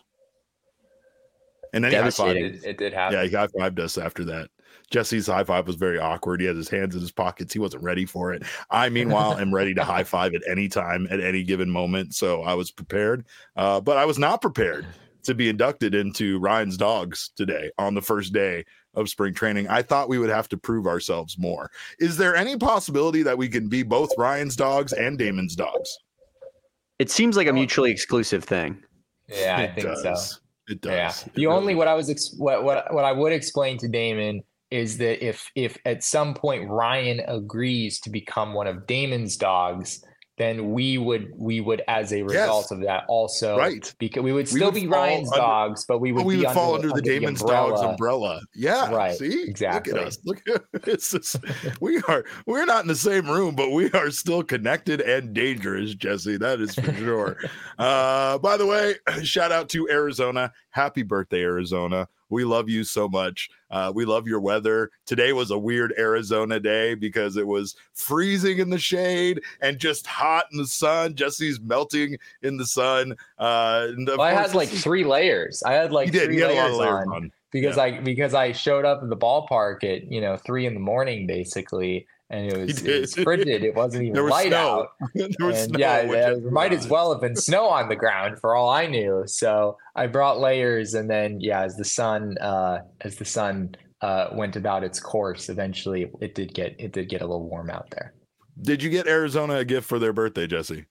And then he high-fived. It, it did happen. Yeah, he high-fived us after that. Jesse's high five was very awkward. He had his hands in his pockets. He wasn't ready for it. I, meanwhile, am ready to high five at any time, at any given moment. So I was prepared, uh, but I was not prepared to be inducted into Ryan's dogs today on the first day of spring training. I thought we would have to prove ourselves more. Is there any possibility that we can be both Ryan's dogs and Damon's dogs? It seems like a mutually exclusive thing. Yeah, I It think does. so. It does. Yeah. It The really only what I was ex- what what what I would explain to Damon is that if if at some point Ryan agrees to become one of Damon's dogs, then we would we would as a result Yes. of that also Right. because we would We still would be fall Ryan's under- dogs, but we would But we be would fall under, under the Damon's dogs umbrella. Yeah, Right, See, exactly. Look at us. Look at it's just, we are. We're not in the same room, but we are still connected and dangerous, Jesse. That is for sure. Uh, by the way, shout out to Arizona. Happy birthday, Arizona. We love you so much. Uh, we love your weather. Today was a weird Arizona day because it was freezing in the shade and just hot in the sun. Jesse's melting in the sun. Uh, and of Well, I course, had like this is- three layers. I had like He did. three He had a lot layers, of layers on, on. because Yeah. I because I showed up at the ballpark at you know three in the morning basically, and it was, He it was did. frigid. It wasn't even There was light snow. out. there was And snow. yeah, which there is might as nice. well have been snow on the ground for all I knew. So I brought layers, and then yeah, as the sun uh, as the sun uh, went about its course, eventually it did get it did get a little warm out there. Did you get Arizona a gift for their birthday, Jesse?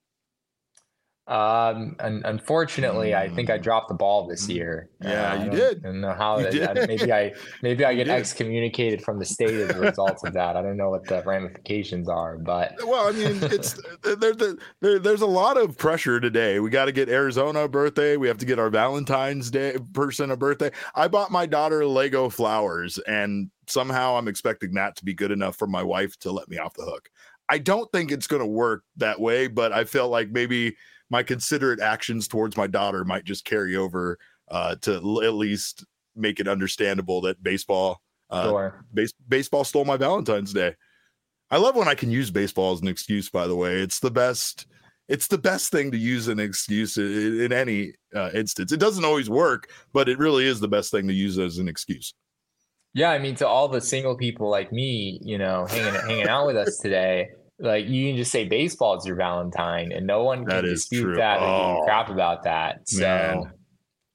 Um, and unfortunately, I think I dropped the ball this year. Yeah, Uh, I you don't- did. I don't know how. You that- did. I- maybe I maybe I You get did. excommunicated from the state as a result of that. I don't know what the ramifications are, but Well, I mean, it's there, there, there, there's a lot of pressure today. We got to get Arizona a birthday. We have to get our Valentine's Day person a birthday. I bought my daughter Lego flowers, and somehow I'm expecting that to be good enough for my wife to let me off the hook. I don't think it's going to work that way, but I felt like maybe my considerate actions towards my daughter might just carry over uh, to l- at least make it understandable that baseball, uh, sure. base, baseball stole my Valentine's Day. I love when I can use baseball as an excuse, by the way. It's the best. It's the best thing to use an excuse in, in any uh, instance. It doesn't always work, but it really is the best thing to use as an excuse. Yeah, I mean, to all the single people like me, you know, hanging hanging out with us today, like you can just say baseball is your Valentine, and no one That can is dispute true. that or give Oh, you crap about that. So man.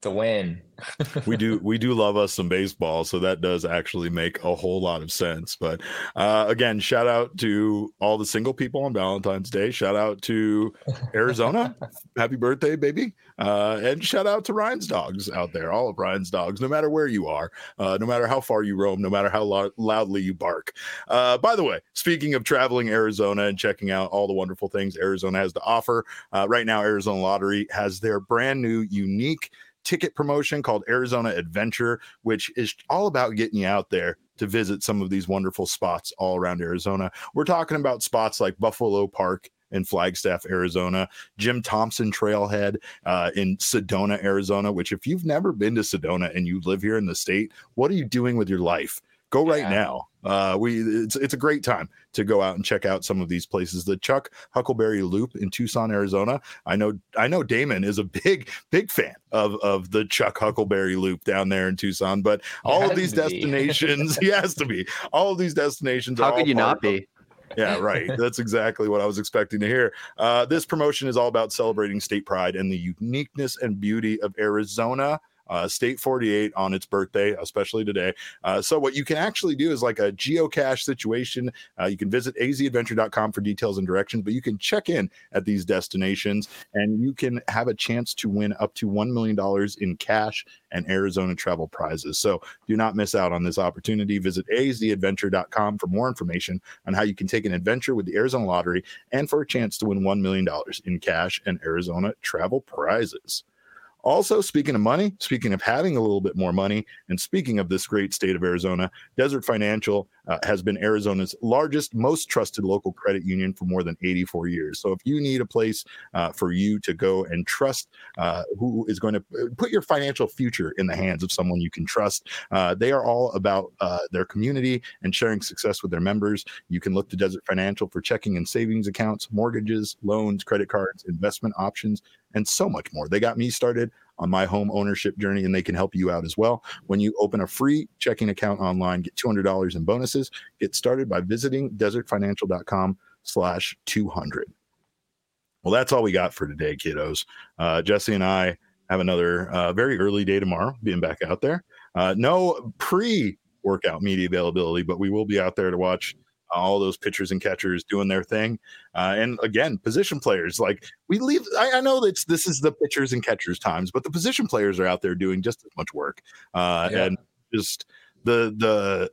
It's a win. we do we do love us some baseball, so that does actually make a whole lot of sense. But uh, again, shout out to all the single people on Valentine's Day. Shout out to Arizona. Happy birthday, baby. Uh, and shout out to Ryan's dogs out there, all of Ryan's dogs, no matter where you are, uh, no matter how far you roam, no matter how lo- loudly you bark. Uh, by the way, speaking of traveling Arizona and checking out all the wonderful things Arizona has to offer, uh, right now Arizona Lottery has their brand new unique ticket promotion called Arizona Adventure, which is all about getting you out there to visit some of these wonderful spots all around Arizona. We're talking about spots like Buffalo Park in Flagstaff, Arizona, Jim Thompson Trailhead uh, in Sedona, Arizona, which if you've never been to Sedona and you live here in the state, what are you doing with your life? Go right yeah. now. Uh, we it's it's a great time to go out and check out some of these places. The Chuck Huckleberry Loop in Tucson, Arizona. I know I know Damon is a big big fan of of the Chuck Huckleberry Loop down there in Tucson. But all of these destinations, he has to be. All of these destinations. How are could you not be? Yeah, right. That's exactly what I was expecting to hear. Uh, this promotion is all about celebrating state pride and the uniqueness and beauty of Arizona. Uh, State forty-eight on its birthday, especially today. Uh, so what you can actually do is like a geocache situation. Uh, you can visit a z adventure dot com for details and directions, but you can check in at these destinations and you can have a chance to win up to one million dollars in cash and Arizona travel prizes. So do not miss out on this opportunity. Visit a z adventure dot com for more information on how you can take an adventure with the Arizona Lottery and for a chance to win one million dollars in cash and Arizona travel prizes. Also, speaking of money, speaking of having a little bit more money, and speaking of this great state of Arizona, Desert Financial uh, has been Arizona's largest, most trusted local credit union for more than eighty-four years. So if you need a place uh, for you to go and trust uh, who is going to put your financial future in the hands of someone you can trust, uh, they are all about uh, their community and sharing success with their members. You can look to Desert Financial for checking and savings accounts, mortgages, loans, credit cards, investment options, and so much more. They got me started on my home ownership journey, and they can help you out as well. When you open a free checking account online, get two hundred dollars in bonuses. Get started by visiting desert financial dot com slash two hundred. Well, that's all we got for today, kiddos. Uh, Jesse and I have another uh, very early day tomorrow, being back out there. Uh, no pre-workout media availability, but we will be out there to watch all those pitchers and catchers doing their thing. Uh, and again, position players, like we leave, I, I know that this is the pitchers and catchers times, but the position players are out there doing just as much work. Uh, yeah. And just the, the,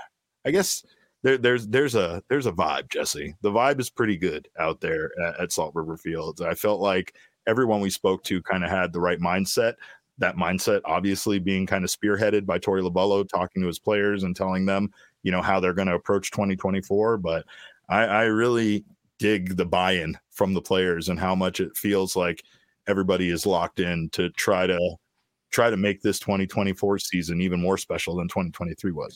I guess there, there's, there's a, there's a vibe, Jesse. The vibe is pretty good out there at, at Salt River Fields. I felt like everyone we spoke to kind of had the right mindset. That mindset obviously being kind of spearheaded by Torey Lovullo, talking to his players and telling them, you know, how they're going to approach twenty twenty-four. But I, I really dig the buy-in from the players and how much it feels like everybody is locked in to try to try to make this twenty twenty-four season even more special than twenty twenty-three was.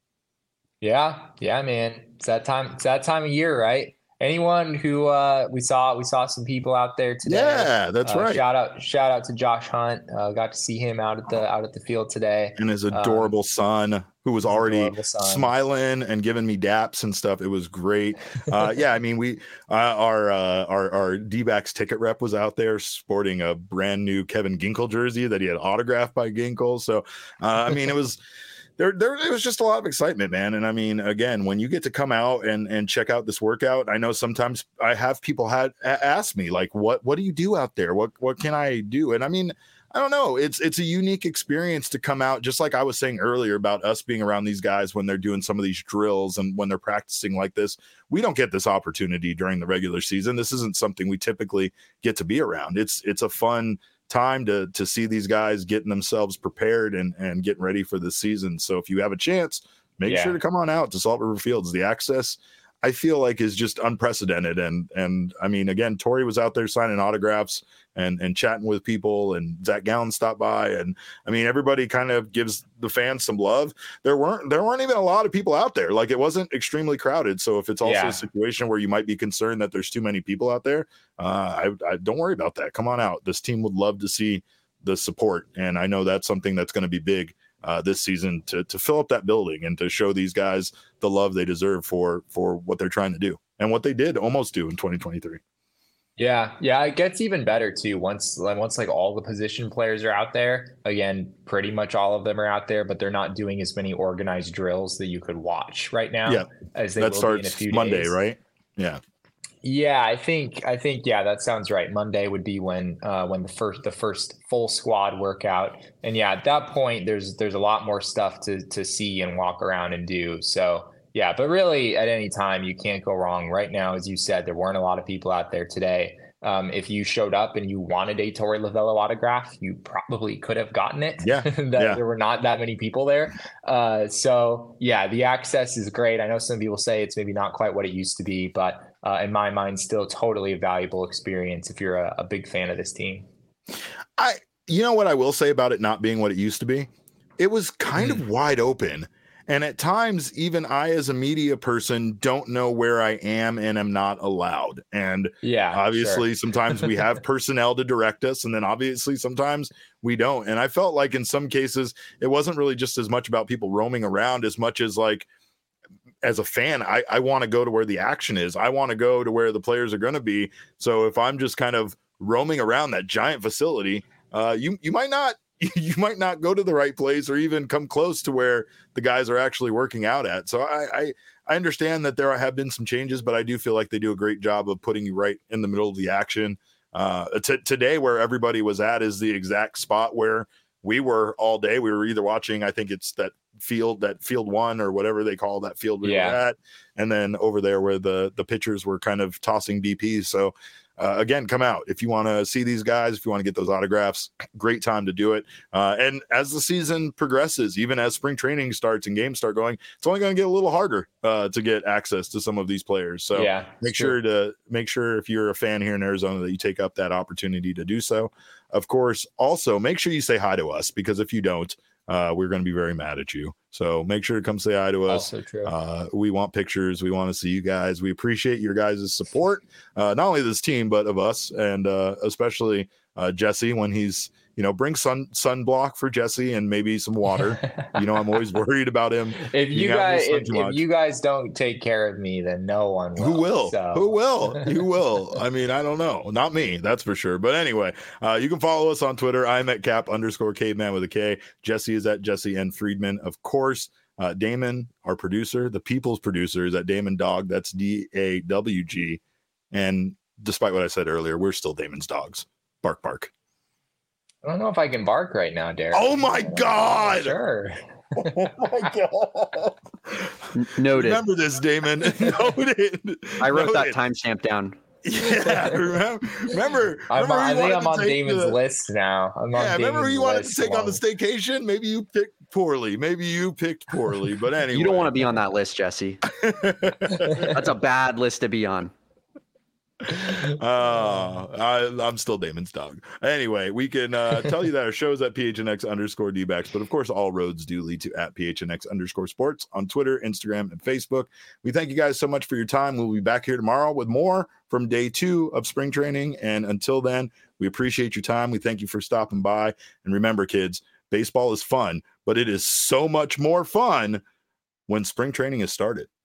Yeah. Yeah, man. It's that time. It's that time of year, right? Anyone who uh, we saw, we saw some people out there today. Yeah, that's uh, right. Shout out, shout out to Josh Hunt. Uh, got to see him out at the out at the field today, and his adorable um, son, who was already son. smiling and giving me daps and stuff. It was great. Uh, yeah, I mean, we uh, our uh, our our D-backs ticket rep was out there sporting a brand new Kevin Ginkel jersey that he had autographed by Ginkel. So, uh, I mean, it was. There, there, it was just a lot of excitement, man. And I mean, again, when you get to come out and, and check out this workout, I know sometimes I have people had ask me like, what, what do you do out there? What, what can I do? And I mean, I don't know. It's, it's a unique experience to come out. Just like I was saying earlier about us being around these guys when they're doing some of these drills and when they're practicing like this, we don't get this opportunity during the regular season. This isn't something we typically get to be around. It's, it's a fun time to to see these guys getting themselves prepared and and getting ready for the season. So if you have a chance, make yeah. sure to come on out to Salt River Fields. The access, I feel like, is just unprecedented. And and I mean, again, Torey was out there signing autographs and and chatting with people, and Zach Gallen stopped by, and I mean, everybody kind of gives the fans some love. There weren't there weren't even a lot of people out there. Like, it wasn't extremely crowded. So if it's also yeah. a situation where you might be concerned that there's too many people out there, uh, I, I don't worry about that. Come on out. This team would love to see the support, and I know that's something that's going to be big uh, this season to to fill up that building and to show these guys the love they deserve for for what they're trying to do and what they did almost do in twenty twenty-three. Yeah, yeah, it gets even better too. Once, like, once like all the position players are out there, again, pretty much all of them are out there, but they're not doing as many organized drills that you could watch right now. Yeah, as they that will starts be in a few Monday, days. right? Yeah. Yeah, I think I think yeah, that sounds right. Monday would be when uh, when the first the first full squad workout, and yeah, at that point, there's there's a lot more stuff to to see and walk around and do. So. Yeah, but really at any time, you can't go wrong. Right now, as you said, there weren't a lot of people out there today. Um, if you showed up and you wanted a Torey Lovullo autograph, you probably could have gotten it. Yeah, that yeah. There were not that many people there. Uh, so, yeah, the access is great. I know some people say it's maybe not quite what it used to be, but uh, in my mind, still totally a valuable experience if you're a, a big fan of this team. I, you know what I will say about it not being what it used to be? It was kind mm. of wide open. And at times, even I, as a media person, don't know where I am and am not allowed. And yeah, obviously, sure. sometimes we have personnel to direct us, and then obviously sometimes we don't. And I felt like in some cases, it wasn't really just as much about people roaming around as much as like, as a fan, I, I want to go to where the action is. I want to go to where the players are going to be. So if I'm just kind of roaming around that giant facility, uh, you you might not. you might not go to the right place or even come close to where the guys are actually working out at. So I, I, I understand that there have been some changes, but I do feel like they do a great job of putting you right in the middle of the action. Uh, t- today, where everybody was at is the exact spot where we were all day. We were either watching, I think it's that field, that field one or whatever they call that field we yeah. were at. And then over there where the, the pitchers were kind of tossing D Ps. So Uh, again, come out if you want to see these guys, if you want to get those autographs, great time to do it. Uh, and as the season progresses, even as spring training starts and games start going, it's only going to get a little harder uh, to get access to some of these players. So yeah, make sure to make sure if you're a fan here in Arizona that you take up that opportunity to do so. Of course, also make sure you say hi to us, because if you don't, uh, we're going to be very mad at you. So make sure to come say hi to us. Also true. Uh, we want pictures. We want to see you guys. We appreciate your guys' support, uh, not only this team, but of us, and uh, especially uh, Jesse when he's, you know, bring sun sunblock for Jesse and maybe some water. You know, I'm always worried about him. If you guys, if, if you guys don't take care of me, then no one will. Who will? So. Who will? Who will? I mean, I don't know. Not me, that's for sure. But anyway, uh, you can follow us on Twitter. I'm at cap underscore caveman with a K. Jesse is at Jesse N. Friedman, of course. Uh, Damon, our producer, the people's producer, is at Damon Dog. That's D A W G. And despite what I said earlier, we're still Damon's dogs. Bark, bark. I don't know if I can bark right now, Derek. Oh my God! Sure. Oh my God! Noted. Remember this, Damon. Noted. I wrote Noted. that timestamp down. Yeah, remember? Remember? I'm, remember I think I'm on take Damon's the, list now. I'm yeah, on remember Damon's you wanted to list take along. on the staycation? Maybe you picked poorly. Maybe you picked poorly. But anyway, You don't want to be on that list, Jesse. That's a bad list to be on. uh I, I'm still Damon's dog. Anyway, we can uh tell you that our show's at P H N X underscore D-backs, but of course all roads do lead to at P H N X underscore sports on Twitter, Instagram, and Facebook. We thank you guys so much for your time. We'll be back here tomorrow with more from day two of spring training, and until then, we appreciate your time. We thank you for stopping by, and remember, kids, baseball is fun, but it is so much more fun when spring training has started.